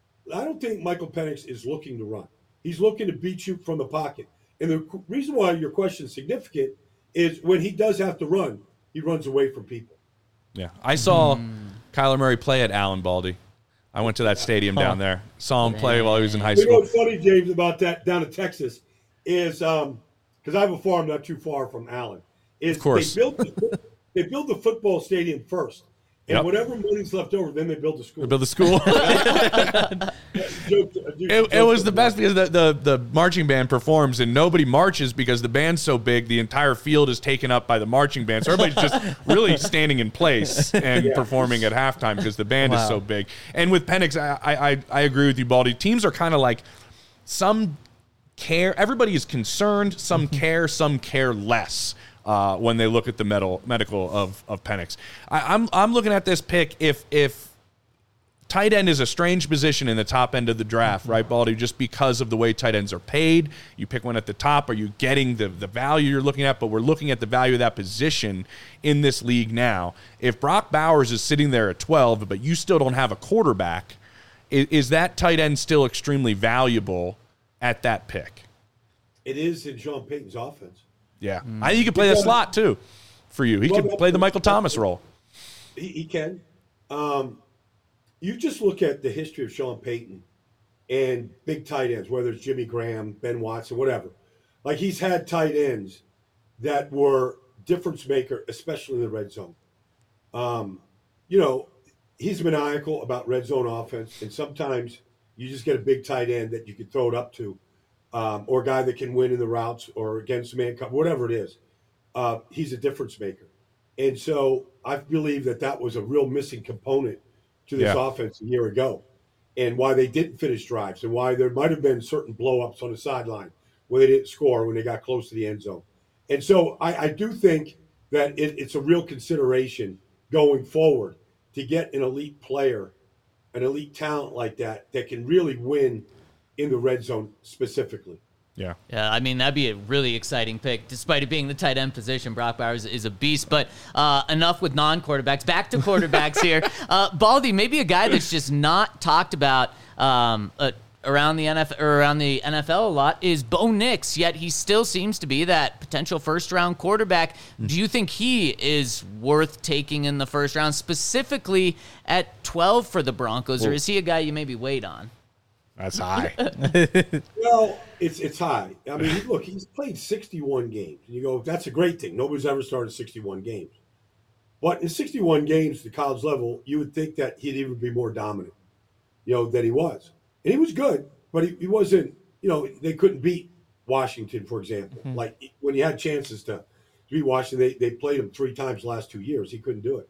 I don't think Michael Penix is looking to run. He's looking to beat you from the pocket. And the reason why your question is significant is when he does have to run, he runs away from people. Yeah, I saw mm. Kyler Murray play at Allen Baldy. I went to that stadium down there. Saw him play while he was in high You know school. what's funny, James, about that down in Texas is um because I have a farm not too far from Allen. Is Of course. they built the, they built the football stadium first, and Yep. whatever money's left over, then they build the school. They built the school. Joke- joke- It, it was the joke- best because the, the, the marching band performs and nobody marches because the band's so big, the entire field is taken up by the marching band. So everybody's just really standing in place and Yeah. performing at halftime because the band Wow. is so big. And with Penix, I, I, I agree with you, Baldy. Teams are kind of like some care. Everybody is concerned. Some care. Some care less. Uh, when they look at the medal, medical of of Penix, I, I'm I'm looking at this pick. If if tight end is a strange position in the top end of the draft, right, Baldy? Just because of the way tight ends are paid, you pick one at the top. Are you getting the the value you're looking at? But we're looking at the value of that position in this league now. If Brock Bowers is sitting there at twelve, but you still don't have a quarterback, is, is that tight end still extremely valuable at that pick? It is in Sean Payton's offense. Yeah, I think he could play the slot too for you. He Well, could play the Michael Thomas role. He, he can. Um, you just look at the history of Sean Payton and big tight ends, whether it's Jimmy Graham, Ben Watson, whatever. Like he's had tight ends that were difference maker, especially in the red zone. Um, you know, he's maniacal about red zone offense, and sometimes you just get a big tight end that you can throw it up to. Um, or a guy that can win in the routes or against man cover, whatever it is. Uh, he's a difference maker. And so I believe that that was a real missing component to this Yeah. offense a year ago and why they didn't finish drives and why there might have been certain blow-ups on the sideline where they didn't score when they got close to the end zone. And so I, I do think that it, it's a real consideration going forward to get an elite player, an elite talent like that that can really win in the red zone specifically. Yeah. Yeah, I mean, that'd be a really exciting pick. Despite it being the tight end position, Brock Bowers is a beast. But uh, enough with non-quarterbacks. Back to quarterbacks here. Uh, Baldy, maybe a guy that's just not talked about um, uh, around the N F L, or around the N F L a lot is Bo Nix, yet he still seems to be that potential first-round quarterback. Do you think he is worth taking in the first round, specifically at twelve for the Broncos, or is he a guy you maybe wait on? That's high. Well, it's it's high. I mean, look, he's played sixty-one games. And you go, that's a great thing. Nobody's ever started sixty-one games. But in sixty-one games at the college level, you would think that he'd even be more dominant, you know, than he was. And he was good, but he, he wasn't, you know, they couldn't beat Washington, for example. Mm-hmm. Like when he had chances to, to beat Washington, they, they played him three times the last two years. He couldn't do it.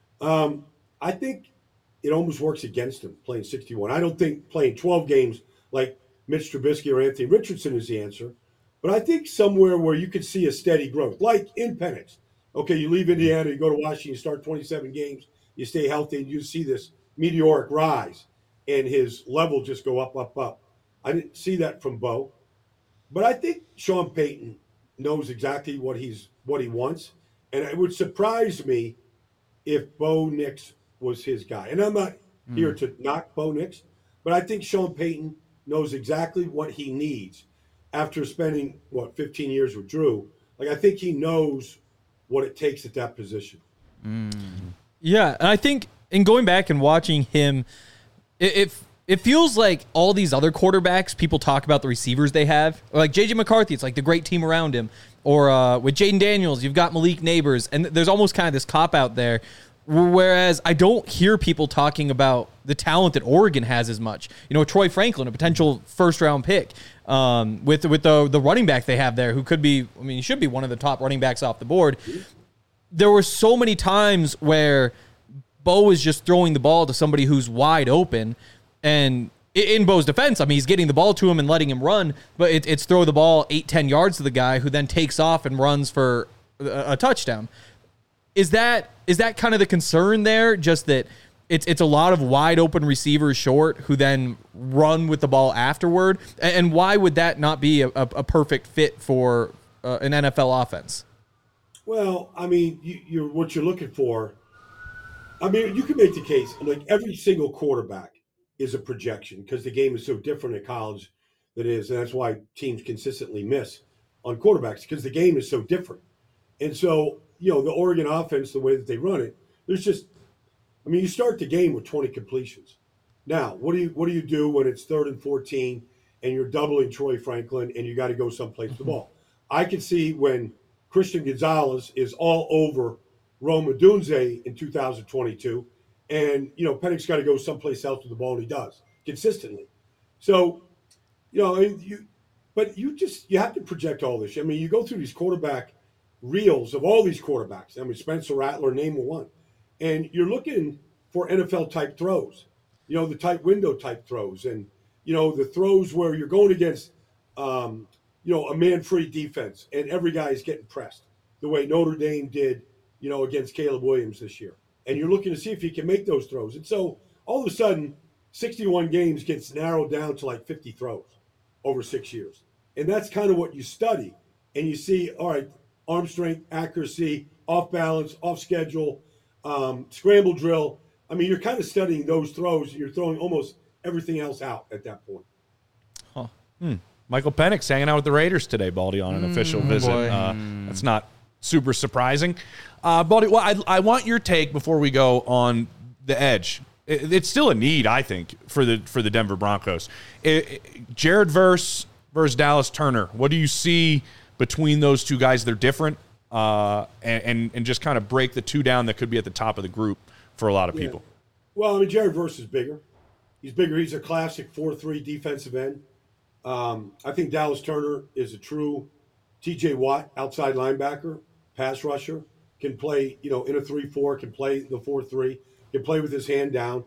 Um, I think it almost works against him playing sixty-one. I don't think playing twelve games like Mitch Trubisky or Anthony Richardson is the answer. But I think somewhere where you could see a steady growth, like in Penix. Okay, you leave Indiana, you go to Washington, you start twenty-seven games, you stay healthy, and you see this meteoric rise, and his level just go up, up, up. I didn't see that from Bo. But I think Sean Payton knows exactly what he's what he wants. And it would surprise me if Bo Nix was his guy. And I'm not mm. here to knock Bo Nix, but I think Sean Payton knows exactly what he needs after spending, what, fifteen years with Drew. Like, I think he knows what it takes at that position. Mm. Yeah, and I think in going back and watching him, it, it it feels like all these other quarterbacks, people talk about the receivers they have. Like J J McCarthy, it's like the great team around him. Or uh, with Jaden Daniels, you've got Malik Neighbors. And there's almost kind of this cop-out there. Whereas I don't hear people talking about the talent that Oregon has as much. You know, Troy Franklin, a potential first-round pick, um, with with the the running back they have there, who could be, I mean, he should be one of the top running backs off the board. There were so many times where Bo was just throwing the ball to somebody who's wide open, and in Bo's defense, I mean, he's getting the ball to him and letting him run, but it, it's throw the ball eight, ten yards to the guy who then takes off and runs for a, a touchdown. Is that is that kind of the concern there? Just that it's it's a lot of wide open receivers short who then run with the ball afterward, and why would that not be a, a, a perfect fit for uh, an N F L offense? Well, I mean, you, you're what you're looking for. I mean, you can make the case like every single quarterback is a projection because the game is so different at college than it is, and that's why teams consistently miss on quarterbacks because the game is so different, and so. You know, the Oregon offense, the way that they run it, there's just, I mean, you start the game with twenty completions. Now, what do you what do you do when it's third and fourteen and you're doubling Troy Franklin and you got to go someplace with the ball? I can see when Christian Gonzalez is all over Rome Odunze in two thousand twenty-two and, you know, Penix got to go someplace else with the ball, and he does consistently. So, you know, you, but you just, you have to project all this. I mean, you go through these quarterback reels of all these quarterbacks. I mean, Spencer Rattler, name one. And you're looking for N F L-type throws, you know, the tight window-type throws. And, you know, the throws where you're going against, um, you know, a man-free defense, and every guy is getting pressed the way Notre Dame did, you know, against Caleb Williams this year. And you're looking to see if he can make those throws. And so all of a sudden, sixty-one games gets narrowed down to like fifty throws over six years. And that's kind of what you study. And you see, all right, arm strength, accuracy, off balance, off schedule, um, scramble drill. I mean, you're kind of studying those throws. You're throwing almost everything else out at that point. Huh. Hmm. Michael Penix hanging out with the Raiders today, Baldy, on an mm, official visit. Uh, that's not super surprising. Uh, Baldy, well, I, I want your take before we go on the edge. It, it's still a need, I think, for the for the Denver Broncos. It, it, Jared Verse versus Dallas Turner. What do you see between those two guys? They're different, uh, and, and and just kind of break the two down that could be at the top of the group for a lot of yeah. people. Well, I mean, Jared Verse is bigger. He's bigger. He's a classic four three defensive end. Um, I think Dallas Turner is a true T J Watt outside linebacker, pass rusher, can play, you know, in a three four, can play the four three, can play with his hand down.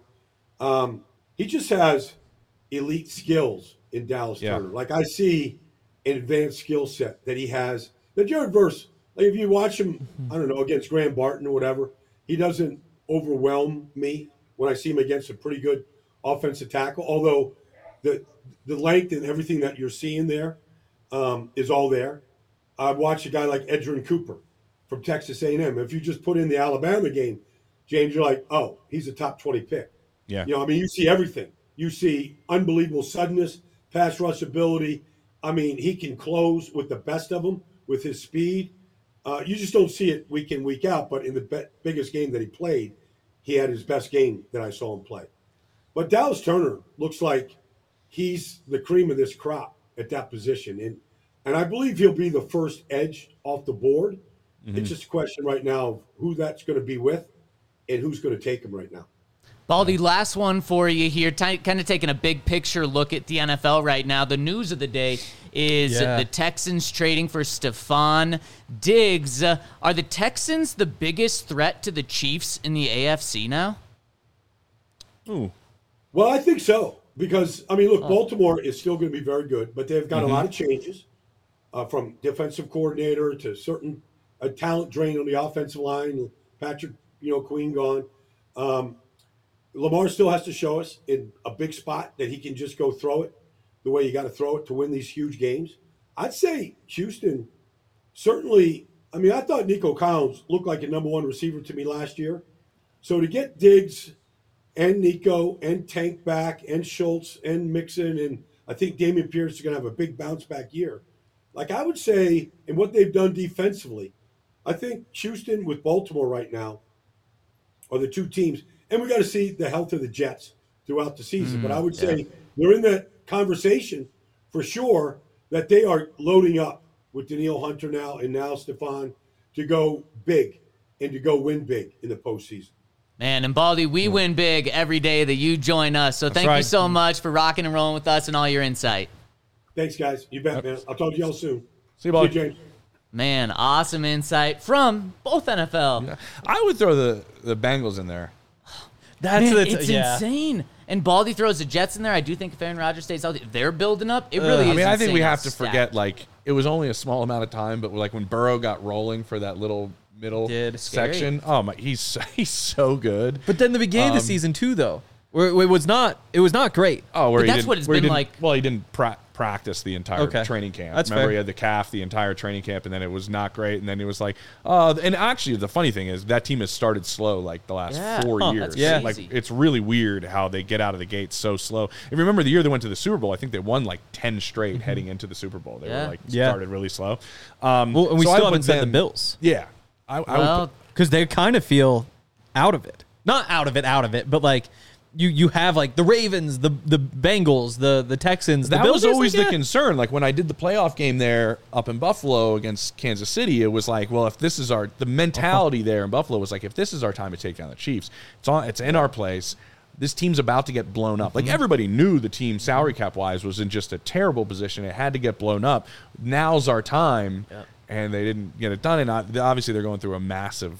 Um, he just has elite skills in Dallas yeah. Turner. Like I see an advanced skill set that he has. The Jared Verse, like if you watch him, I don't know, against Graham Barton or whatever, he doesn't overwhelm me when I see him against a pretty good offensive tackle. Although the the length and everything that you're seeing there, um, is all there. I've watched a guy like Edgerrin Cooper from Texas A and M. If you just put in the Alabama game, James, you're like, oh, he's a top twenty pick. Yeah. You know, I mean, you see everything. You see unbelievable suddenness, pass rush ability. I mean, he can close with the best of them with his speed. Uh, you just don't see it week in, week out. But in the be- biggest game that he played, he had his best game that I saw him play. But Dallas Turner looks like he's the cream of this crop at that position. And and I believe he'll be the first edge off the board. Mm-hmm. It's just a question right now of who that's going to be with and who's going to take him right now. Baldy, last one for you here. T- kind of taking a big picture look at the N F L right now. The news of the day is Yeah. the Texans trading for Stephon Diggs. Uh, are the Texans the biggest threat to the Chiefs in the A F C now? Ooh. Well, I think so. Because, I mean, look, Baltimore is still going to be very good, but they've got mm-hmm. a lot of changes uh, from defensive coordinator to certain a talent drain on the offensive line. Patrick, you know, Queen gone. Um, Lamar still has to show us in a big spot that he can just go throw it the way you got to throw it to win these huge games. I'd say Houston certainly. I mean, I thought Nico Collins looked like a number one receiver to me last year. So to get Diggs and Nico and Tank back and Schultz and Mixon, and I think Dameon Pierce is going to have a big bounce back year. Like I would say, and what they've done defensively, I think Houston with Baltimore right now are the two teams. And we got to see the health of the Jets throughout the season. Mm, but I would say yeah. they're in that conversation for sure that they are loading up with Danielle Hunter now and now Stephon to go big and to go win big in the postseason. Man, and Baldy, we yeah. win big every day that you join us. So That's thank right. you so much for rocking and rolling with us and all your insight. Thanks, guys. You bet, man. I'll talk to y'all soon. See you, Baldy. See you, James. Man, awesome insight from both N F L. Yeah. I would throw the, the Bengals in there. That's Man, the t- it's yeah. insane. And Baldy throws the Jets in there. I do think if Aaron Rodgers stays out, they're building up. It really uh, is. I mean, I think we have to stacked. forget, like, it was only a small amount of time, but like when Burrow got rolling for that little middle Did. section, Scary. oh my, he's he's so good. But then the beginning um, of the season too, though, where it was not, it was not great. Oh, where but he that's what it's been like. Well, he didn't pra- practice the entire okay. training camp. That's Remember, fair. he had the calf the entire training camp, and then it was not great. And then he was like, oh, and actually, the funny thing is that team has started slow like the last yeah. four huh, years. Yeah, like it's really weird how they get out of the gate so slow. And remember the year they went to the Super Bowl, I think they won like ten straight mm-hmm. heading into the Super Bowl. They yeah. were like yeah. started really slow. Um, well, and we so still I haven't said them, the Bills. Yeah, I, I well, would because they kind of feel out of it. Not out of it, out of it, but like. You you have like the Ravens, the the Bengals, the the Texans. The that Bills, was always like, the yeah. concern. Like when I did the playoff game there up in Buffalo against Kansas City, it was like, well, if this is our the mentality uh-huh. there in Buffalo was like, if this is our time to take down the Chiefs, it's on, it's in our place. This team's about to get blown up. Like everybody knew the team salary cap wise was in just a terrible position. It had to get blown up. Now's our time, yep. and they didn't get it done. And obviously they're going through a massive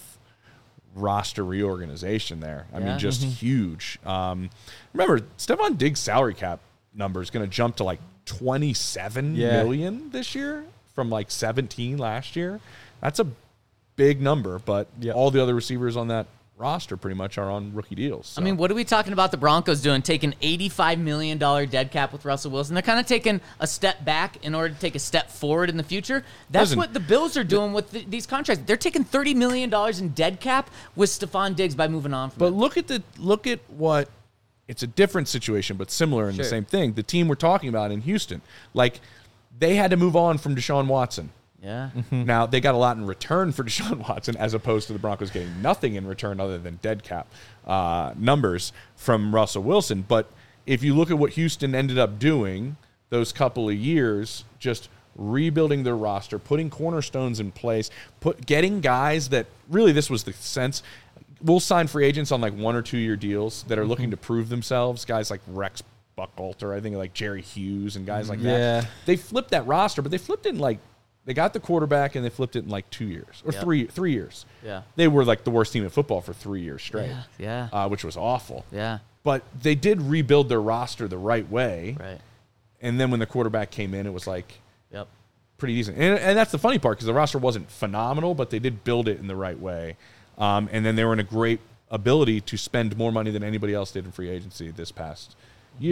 roster reorganization there. I yeah. mean, just mm-hmm. huge. Um, remember, Stephon Diggs' salary cap number is going to jump to like twenty-seven yeah. million this year from like seventeen last year. That's a big number, but yep. all the other receivers on that roster pretty much are on rookie deals. So. I mean, what are we talking about the Broncos doing? Taking eighty-five million dollars dead cap with Russell Wilson. They're kind of taking a step back in order to take a step forward in the future. That's Listen, what the Bills are doing with the, these contracts. They're taking thirty million dollars in dead cap with Stephon Diggs by moving on from But it. look at the look at what it's a different situation, but similar in sure. the same thing. The team we're talking about in Houston, like they had to move on from Deshaun Watson. Yeah. Mm-hmm. Now, they got a lot in return for Deshaun Watson as opposed to the Broncos getting nothing in return other than dead cap uh, numbers from Russell Wilson. But if you look at what Houston ended up doing those couple of years, just rebuilding their roster, putting cornerstones in place, put getting guys that really this was the sense. We'll sign free agents on like one or two year deals that are mm-hmm. looking to prove themselves. Guys like Rex Buchalter, I think like Jerry Hughes and guys like yeah. that. They flipped that roster, but they flipped it in like They got the quarterback, and they flipped it in like two years or yep. three three years. Yeah, they were like the worst team in football for three years straight. Yeah, yeah. Uh, which was awful. Yeah, but they did rebuild their roster the right way. Right, and then when the quarterback came in, it was like, yep, pretty decent. And, and that's the funny part because the roster wasn't phenomenal, but they did build it in the right way. Um, and then they were in a great ability to spend more money than anybody else did in free agency this past year.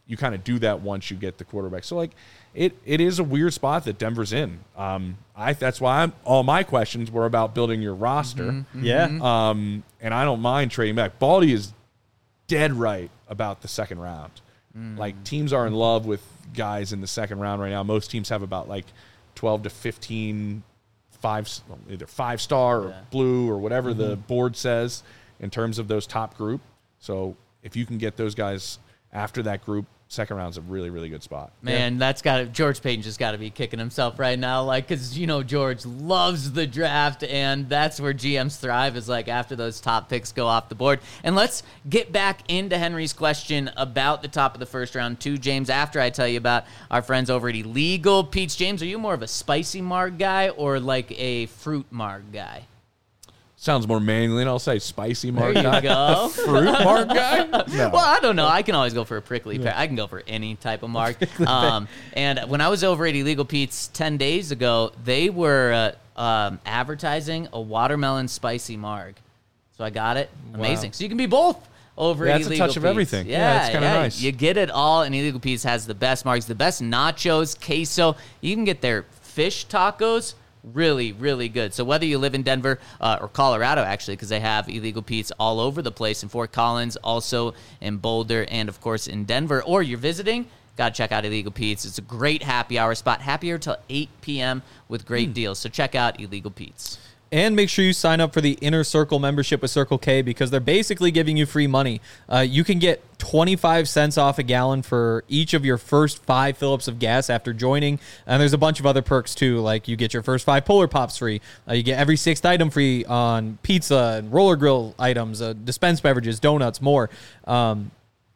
you kind of do that once you get the quarterback. So like it it is a weird spot that Denver's in. Um, I that's why I'm, all my questions were about building your roster. Mm-hmm. Yeah. Um, and I don't mind trading back. Baldy is dead right about the second round. Mm. Like teams are in love with guys in the second round right now. Most teams have about like twelve to fifteen five, either five star or Yeah. blue or whatever the board says in terms of those top group. So if you can get those guys after that group, second round's a really, really good spot. Man, that's got to, George Payton just got to be kicking himself right now. Like, because, you know, George loves the draft, and that's where G Ms thrive, is like after those top picks go off the board. And let's get back into Henry's question about the top of the first round to James after I tell you about our friends over at Illegal Pete's. James, are you more of a spicy marg guy or like a fruit marg guy? Sounds more manly, and I'll say spicy marg There you guy. go. Fruit marg guy? No. Well, I don't know. I can always go for a prickly pear. I can go for any type of mark. Um, and when I was over at Illegal Pete's ten days ago, they were uh, um, advertising a watermelon spicy marg. So I got it. Amazing. So you can be both over Yeah, at it's a Illegal touch of Pete's. everything. Yeah, Yeah, it's kinda yeah. nice. You get it all, and Illegal Pete's has the best margs, the best nachos, queso. You can get their fish tacos. Really, really good. So whether you live in Denver uh, or Colorado, actually, because they have Illegal Pete's all over the place in Fort Collins, also in Boulder, and, of course, in Denver, or you're visiting, got to check out Illegal Pete's. It's a great happy hour spot, happier till eight p.m. with great deals. So check out Illegal Pete's. And make sure you sign up for the Inner Circle membership with Circle K because they're basically giving you free money. Uh, you can get twenty-five cents off a gallon for each of your first five fill-ups of gas after joining. And there's a bunch of other perks, too, like you get your first five Polar Pops free. Uh, you get every sixth item free on pizza and roller grill items, uh, dispensed beverages, donuts, more. Um,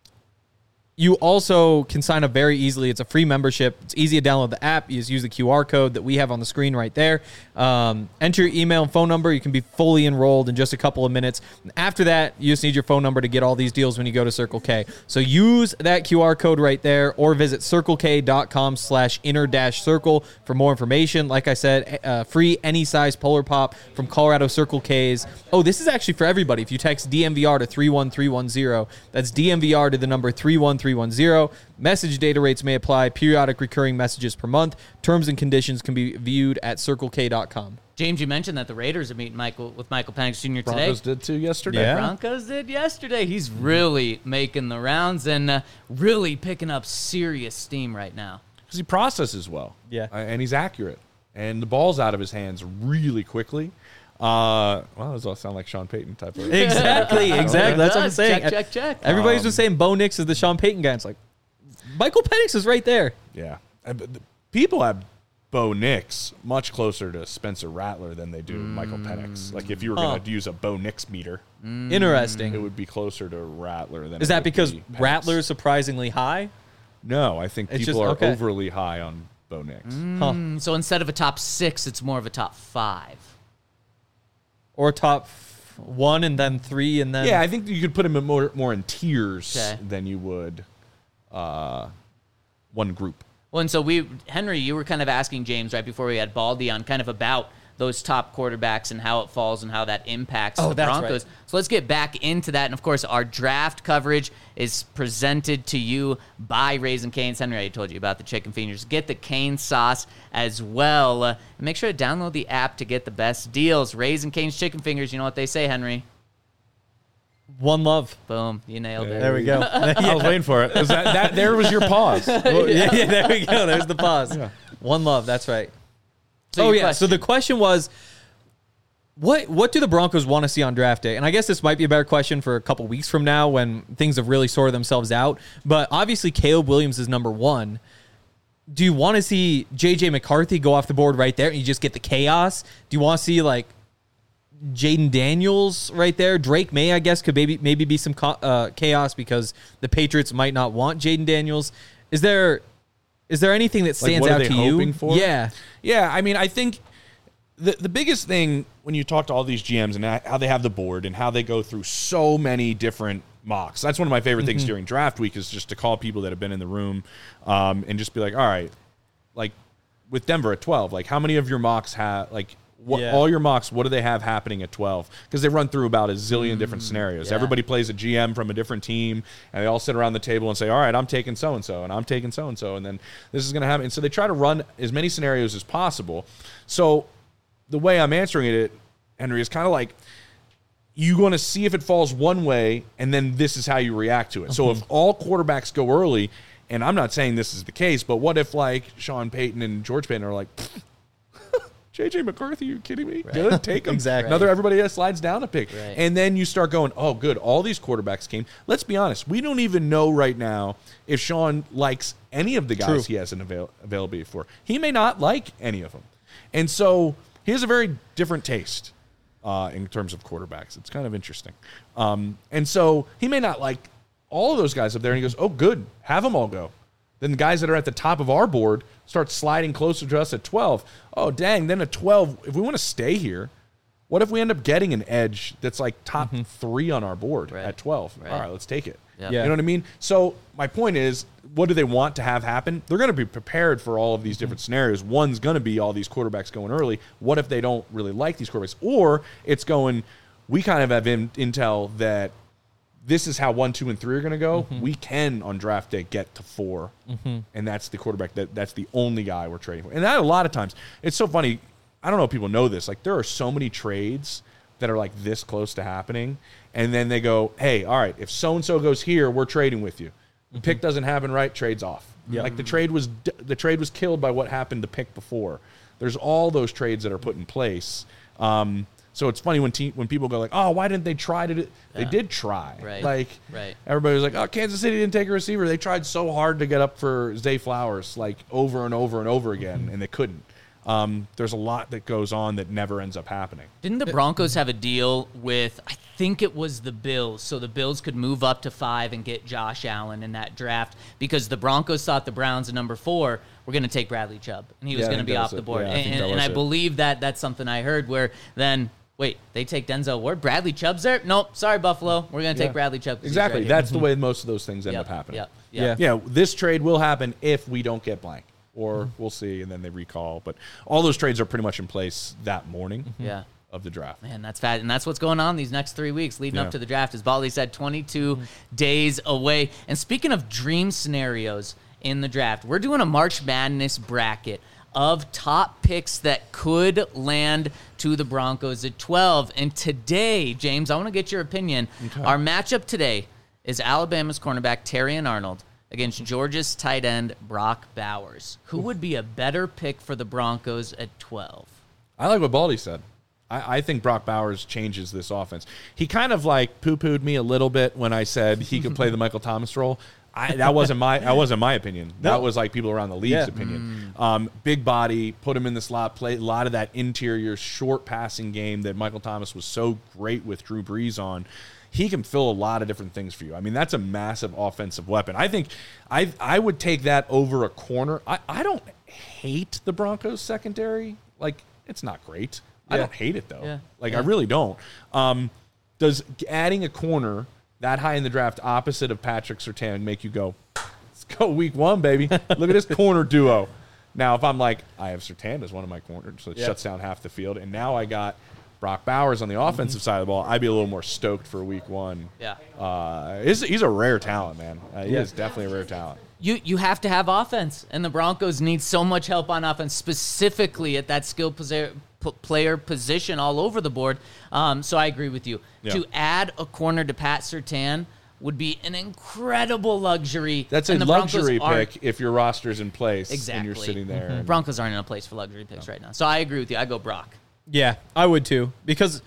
You also can sign up very easily. It's a free membership. It's easy to download the app. You just use the Q R code that we have on the screen right there. Um, enter your email and phone number. You can be fully enrolled in just a couple of minutes. And after that, you just need your phone number to get all these deals when you go to Circle K. So use that Q R code right there or visit circlek.com slash inner dash circle for more information. Like I said, uh, free any size Polar Pop from Colorado Circle K's. Oh, this is actually for everybody. If you text D M V R to three one three one zero, that's D M V R to the number three one three one zero. Message data rates may apply. Periodic recurring messages per month. Terms and conditions can be viewed at circle k dot com. James, you mentioned that the Raiders are meeting Michael with Michael Penix Junior today. Broncos did too yesterday. Yeah. Broncos did yesterday. He's really making the rounds and uh, really picking up serious steam right now. Because he processes well. Yeah. Uh, and he's accurate. And the ball's out of his hands really quickly. Uh, well, those all sound like Sean Payton type of. Exactly, exactly. That's what I'm Does. saying. Check, check, check. Everybody's Um, been saying Bo Nix is the Sean Payton guy. It's like, Michael Penix is right there. Yeah. Uh, but the- People have Bo Nix much closer to Spencer Rattler than they do Michael Penix. Like if you were Huh. going to use a Bo Nix meter, Interesting. it would be closer to Rattler than. Is it that would because be Penix. Rattler's surprisingly high? No, I think It's people just- are okay. overly high on Bo Nix. Huh. Mm, so instead of a top six, it's more of a top five. Or top f- one and then three and then. Yeah, I think you could put him in more more in tiers Okay. than you would uh, one group. Well, and so we, Henry, you were kind of asking James right before we had Baldy on kind of about those top quarterbacks and how it falls and how that impacts Oh, the that's Broncos. right. So let's get back into that. And, of course, our draft coverage is presented to you by Raising Cane's. Henry, I told you about the chicken fingers. Get the cane sauce as well. Uh, and make sure to download the app to get the best deals. Raising Cane's chicken fingers, you know what they say, Henry? One love. Boom, you nailed it. There we go. I was waiting for it. Was that, that there was your pause. yeah, yeah, there we go. There's the pause. One love. That's right. So oh your yeah. So question. the question was, what what do the Broncos want to see on draft day? And I guess this might be a better question for a couple weeks from now when things have really sorted themselves out. But obviously, Caleb Williams is number one. Do you want to see J J McCarthy go off the board right there and you just get the chaos? Do you want to see like Jaden Daniels right there? Drake May, I guess, could maybe maybe be some co- uh, chaos because the Patriots might not want Jaden Daniels. Is there is there anything that stands what are out they to you? hoping for? Yeah. Yeah, I mean, I think the the biggest thing when you talk to all these G Ms and how they have the board and how they go through so many different mocks. That's one of my favorite things during draft week is just to call people that have been in the room um, and just be like, all right, like with Denver at twelve, like how many of your mocks have like What, Yeah. all your mocks, what do they have happening at twelve? Because they run through about a zillion Mm, different scenarios. yeah. Everybody plays a G M from a different team, and they all sit around the table and say, all right, I'm taking so-and-so, and I'm taking so-and-so, and then this is going to happen. And so they try to run as many scenarios as possible. So the way I'm answering it, Henry, is kind of like you're going to see if it falls one way, and then this is how you react to it. So if all quarterbacks go early, and I'm not saying this is the case, but what if, like, Sean Payton and George Payton are like, J J McCarthy, you kidding me? Good, take him. Exactly. Another everybody else slides down a pick. Right. And then you start going, oh, good, all these quarterbacks came. Let's be honest. We don't even know right now if Sean likes any of the guys True. he has an avail- availability for. He may not like any of them. And so he has a very different taste uh, in terms of quarterbacks. It's kind of interesting. Um, and so he may not like all of those guys up there. And he goes, oh, good, have them all go. Then the guys that are at the top of our board start sliding closer to us at twelve. Oh, dang, then at twelve, if we want to stay here, what if we end up getting an edge that's like top three on our board Right. at twelve? Right. All right, let's take it. Yeah. Yeah. You know what I mean? So my point is, what do they want to have happen? They're going to be prepared for all of these different scenarios. One's going to be all these quarterbacks going early. What if they don't really like these quarterbacks? Or it's going, we kind of have in, intel that this is how one, two, and three are going to go. Mm-hmm. We can on draft day get to four, and that's the quarterback. That that's the only guy we're trading for. And that a lot of times, it's so funny. I don't know if people know this. Like there are so many trades that are like this close to happening, and then they go, "Hey, all right, if so and so goes here, we're trading with you." The pick doesn't happen right, trades off. Yeah. Like the trade was the trade was killed by what happened the pick before. There's all those trades that are put in place. Um, So it's funny when te- when people go like, oh, why didn't they try to do They Yeah. did try. Right. Like Right. everybody was like, oh, Kansas City didn't take a receiver. They tried so hard to get up for Zay Flowers like over and over and over again, and they couldn't. Um, there's a lot that goes on that never ends up happening. Didn't the Broncos have a deal with, I think it was the Bills, so the Bills could move up to five and get Josh Allen in that draft because the Broncos thought the Browns at number four were going to take Bradley Chubb, and he was Yeah, I going to think be that off was the it. board. Yeah, I think and that and was I it. believe that that's something I heard where then, wait, they take Denzel Ward? Bradley Chubb's there? Nope, sorry, Buffalo. We're going to take Yeah. Bradley Chubb. 'cause he's Exactly. right here. That's the way most of those things end Yep, up happening. Yep, Yeah. yep. Yeah, this trade will happen if we don't get blank, or we'll see, and then they recall. But all those trades are pretty much in place that morning Yeah. of the draft. Man, that's fat, and that's what's going on these next three weeks leading Yeah. up to the draft. As Baldy said, twenty-two days away. And speaking of dream scenarios in the draft, we're doing a March Madness bracket of top picks that could land to the Broncos at twelve. And today, James, I want to get your opinion. Our matchup today is Alabama's cornerback Terrion Arnold against Georgia's tight end Brock Bowers. Who would be a better pick for the Broncos at twelve? I like what Baldy said. I, I think Brock Bowers changes this offense. He kind of like poo-pooed me a little bit when I said he could play the Michael Thomas role. I, that wasn't my that wasn't my opinion. That No. was like people around the league's Yeah. opinion. Um, big body, put him in the slot, play a lot of that interior short passing game that Michael Thomas was so great with Drew Brees on. He can fill a lot of different things for you. I mean, that's a massive offensive weapon. I think I I would take that over a corner. I, I don't hate the Broncos secondary. Like, it's not great. I Yeah. don't hate it, though. Yeah. Like, Yeah. I really don't. Um, does adding a corner that high in the draft opposite of Patrick Surtain make you go, let's go week one, baby. Look at this corner duo. Now, if I'm like, I have Surtain as one of my corners, so it Yeah. shuts down half the field, and now I got Brock Bowers on the offensive side of the ball, I'd be a little more stoked for week one. Yeah. Uh, he's, he's a rare talent, man. Uh, he Yeah. is definitely a rare talent. You you have to have offense, and the Broncos need so much help on offense, specifically at that skill posi- p- player position all over the board. Um, so I agree with you. Yeah. To add a corner to Pat Surtain would be an incredible luxury. That's a and the Broncos luxury aren't- pick if your roster's in place Exactly. and you're sitting there. and- Broncos aren't in a place for luxury picks right now. So I agree with you. I go Brock. Yeah, I would too. Because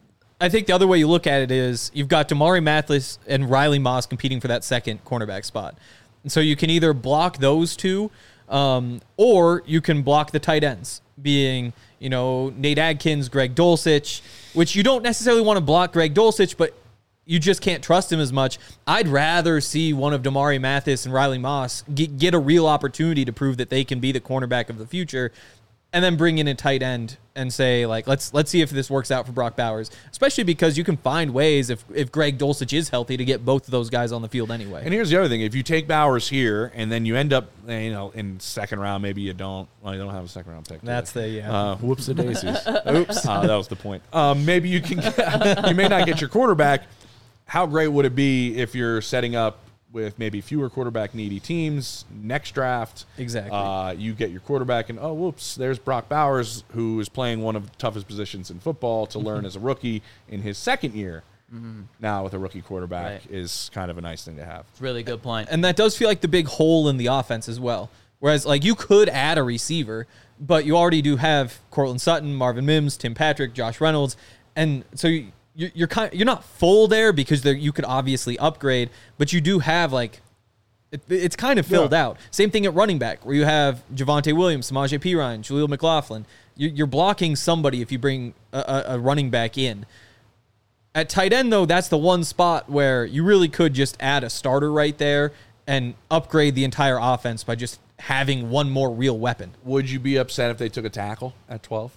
I think the other way you look at it is you've got Damari Mathis and Riley Moss competing for that second cornerback spot. And so you can either block those two, um, or you can block the tight ends, being, you know, Nate Adkins, Greg Dulcich, which you don't necessarily want to block Greg Dulcich, but you just can't trust him as much. I'd rather see one of Damari Mathis and Riley Moss get, get a real opportunity to prove that they can be the cornerback of the future and then bring in a tight end and say, like, let's let's see if this works out for Brock Bowers, especially because you can find ways if, if Greg Dulcich is healthy to get both of those guys on the field anyway. And here's the other thing. If you take Bowers here and then you end up, you know, in second round, maybe you don't. Well, you don't have a second round pick. do That's you? the, yeah. Uh, whoops the daisies. Oops. Uh, that was the point. Um, maybe you can get, you may not get your quarterback. How great would it be if you're setting up with maybe fewer quarterback needy teams next draft? Exactly. Uh, you get your quarterback and, oh, whoops, there's Brock Bowers, who is playing one of the toughest positions in football to learn as a rookie in his second year. Mm-hmm. Now with a rookie quarterback Right. is kind of a nice thing to have. It's a really good point. And that does feel like the big hole in the offense as well. Whereas, like, you could add a receiver, but you already do have Cortland Sutton, Marvin Mims, Tim Patrick, Josh Reynolds. And so you, you're, you're, kind, you're not full there because there, you could obviously upgrade, but you do have, like, it, it's kind of filled Yeah. out. Same thing at running back, where you have Javonte Williams, Samaje Perine, Jaleel McLaughlin. You, you're blocking somebody if you bring a, a, a running back in. At tight end, though, that's the one spot where you really could just add a starter right there and upgrade the entire offense by just having one more real weapon. Would you be upset if they took a tackle at twelve?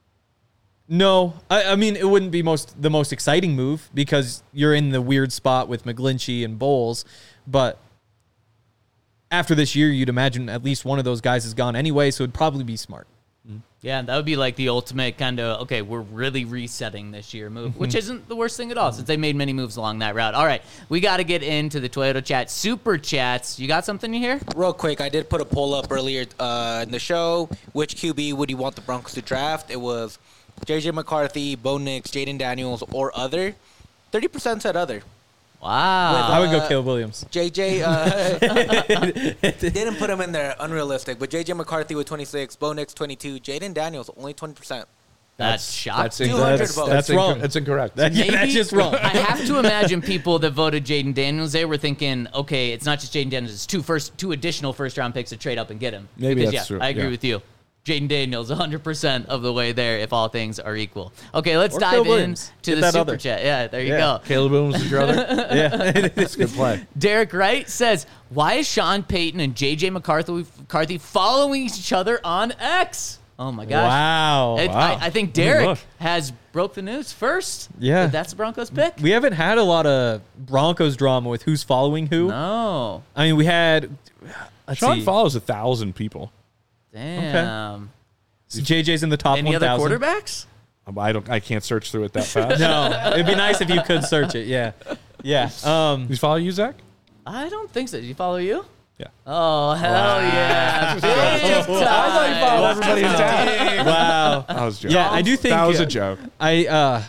No, I, I mean, it wouldn't be most the most exciting move because you're in the weird spot with McGlinchey and Bowles, but after this year, you'd imagine at least one of those guys is gone anyway, so it'd probably be smart. Yeah, that would be like the ultimate kind of, okay, we're really resetting this year move, which isn't the worst thing at all since they made many moves along that route. All right, we got to get into the Toyota Chat Super Chats. You got something you hear? Real quick, I did put a poll up earlier uh, in the show. Which Q B would you want the Broncos to draft? It was J J McCarthy, Bo Nix, Jaden Daniels, or other. thirty percent said other. Wow. I would go Uh, Caleb Williams. J J uh, didn't put him in there, unrealistic. But J J McCarthy with twenty-six, Bo Nix twenty-two, Jaden Daniels only twenty percent. That's shocking. That's, two hundred that's, votes. that's, That's wrong. inco- that's incorrect. That- yeah, that's just wrong. I have to imagine people that voted Jaden Daniels, they were thinking, okay, it's not just Jaden Daniels, it's two first, two additional first-round picks to trade up and get him. Maybe Because, that's yeah, true, I agree yeah. with you. Jaden Daniels, one hundred percent of the way there if all things are equal. Okay, let's Or dive Caleb in Williams. to Get the that Super other. Chat. Yeah, there you Yeah. go. Caleb Williams is your other? Yeah. That's a good play. Derek Wright says, why is Sean Payton and J J McCarthy, McCarthy following each other on X? Oh, my gosh. Wow. It- Wow. I, I think Oh my Derek gosh. has broke the news first. Yeah. that That's the Broncos pick? We haven't had a lot of Broncos drama with who's following who. No. I mean, we had. Let's Sean see. follows a thousand people. Damn. So J J's in the top Any one other thousand. quarterbacks? I don't. I can't search through it that fast. No, it'd be nice if you could search it. Yeah, yeah. Um, You follow you, Zach? I don't think so. Did you follow you? Yeah. Oh, hell yeah. Big I thought you time. followed everybody in town. wow. I was joking. Yeah, I do think that was uh, a joke. I uh,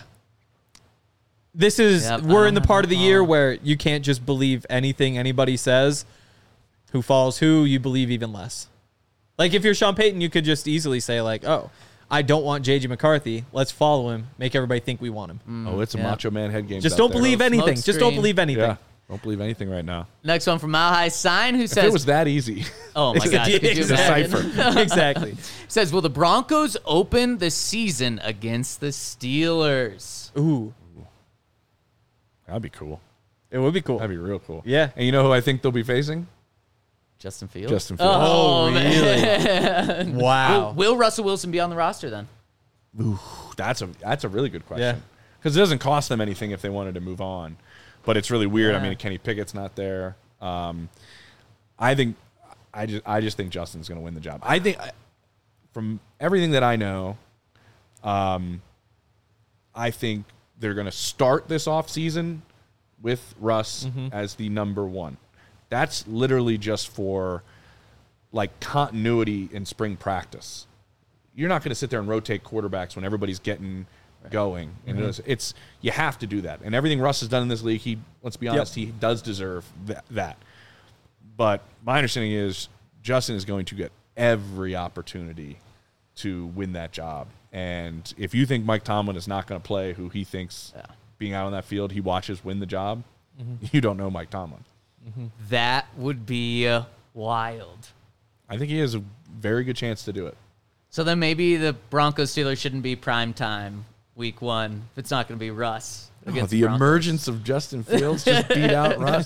this is Yep, we're I in the don't part of the year know. where you can't just believe anything anybody says. Who follows who, you believe even less. Like if you're Sean Payton, you could just easily say like, "Oh, I don't want J J McCarthy. Let's follow him. Make everybody think we want him." Oh, it's a yeah. Macho Man head game. Just don't believe Smoke anything. Just don't screen. believe anything. Yeah. Don't believe anything right now. Next one from Mile High Sign, who If says, it was that easy, oh my gosh, could you Exactly. imagine? exactly. Says, will the Broncos open the season against the Steelers? Ooh, that'd be cool. it would be cool. That'd be real cool. Yeah. And you know who I think they'll be facing? Justin Fields? Justin Fields. Oh, Oh, man. Wow. Will, will Russell Wilson be on the roster then? That's a that's a really good Yeah. question. Because it doesn't cost them anything if they wanted to move on. But it's really weird. I Yeah. mean, Kenny Pickett's not there. Um, I think I just I just think Justin's going to win the job. I think from everything that I know, um, I think they're going to start this offseason with Russ as the number one. That's literally just for like continuity in spring practice. You're not going to sit there and rotate quarterbacks when everybody's getting going. And it's, it's you have to do that. And everything Russ has done in this league, he let's be honest, he does deserve that, that. But my understanding is Justin is going to get every opportunity to win that job. And if you think Mike Tomlin is not going to play who he thinks Yeah. being out on that field, he watches win the job, you don't know Mike Tomlin. That would be uh, wild. I think he has a very good chance to do it. So then maybe the Broncos Steelers shouldn't be prime time week one if it's not going to Oh, against the the Broncos. emergence of Justin Fields just beat out Russ.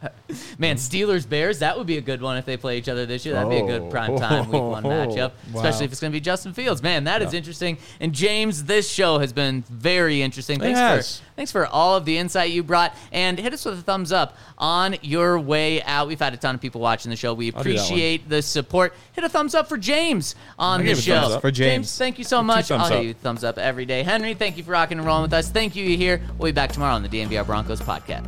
Man, Steelers Bears, that would be a good one if they play each other this year. That'd be a good Oh. prime time week one matchup, Wow. especially if it's going to be Justin Fields. Man, that is interesting. And James, this show has been very interesting. Thanks Yes. for thanks for all of the insight you brought, and hit us with a thumbs up on your way out. We've had a ton of people watching the show. We I'll do that one. appreciate the support. Hit a thumbs up for James on I the gave a show. thumbs up. For James. thank you so Two much. thumbs I'll hit up. you a thumbs up every day. Henry, thank you for rocking and rolling with us. Thank you here. We'll be back tomorrow on the D N V R Broncos podcast.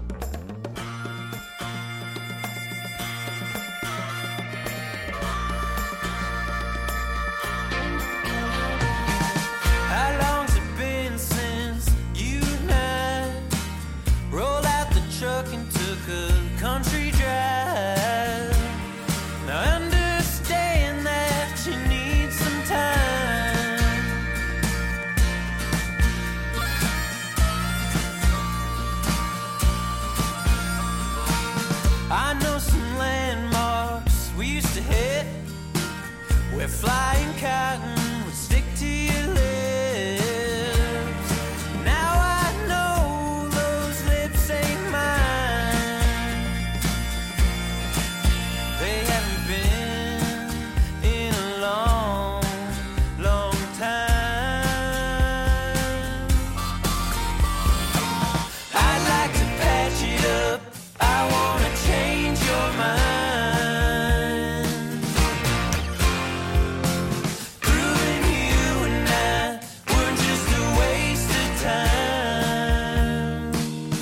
How long's it been since you and I rolled out the truck and took a country drive? Now I understand that you need some time. I know some landmarks we used to hit where flying cotton would stick to your lips. Now I know those lips ain't mine. They haven't been in a long, long time. I'd like to patch it up. I wanna change your mind. Proving you and I were just a waste of time.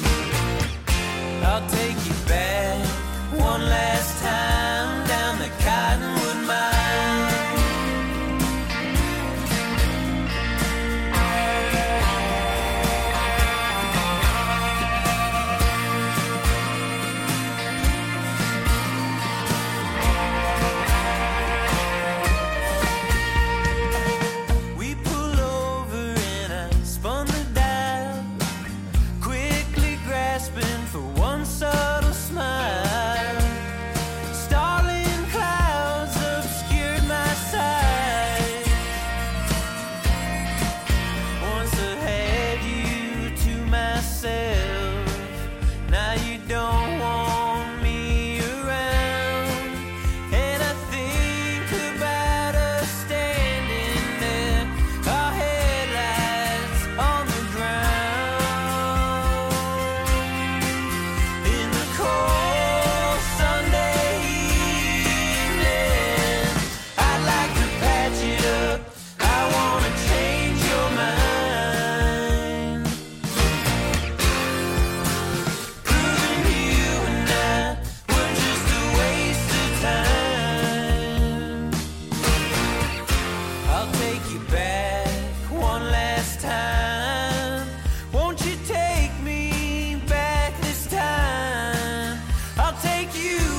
I'll take you back one last time down the Cottonwood Mine. We pull over and I spun the dial, quickly grasping for one subtle smile. Starling clouds obscured my sight. Once I had you to myself, now you don't want me around. And I think about us standing there, our headlights on the ground. In the cold Sunday evening, I'd like to patch it up. I wanna change your mind. Proving you and I were just a waste of time. I'll take you back one last time. Won't you take me back this time? I'll take you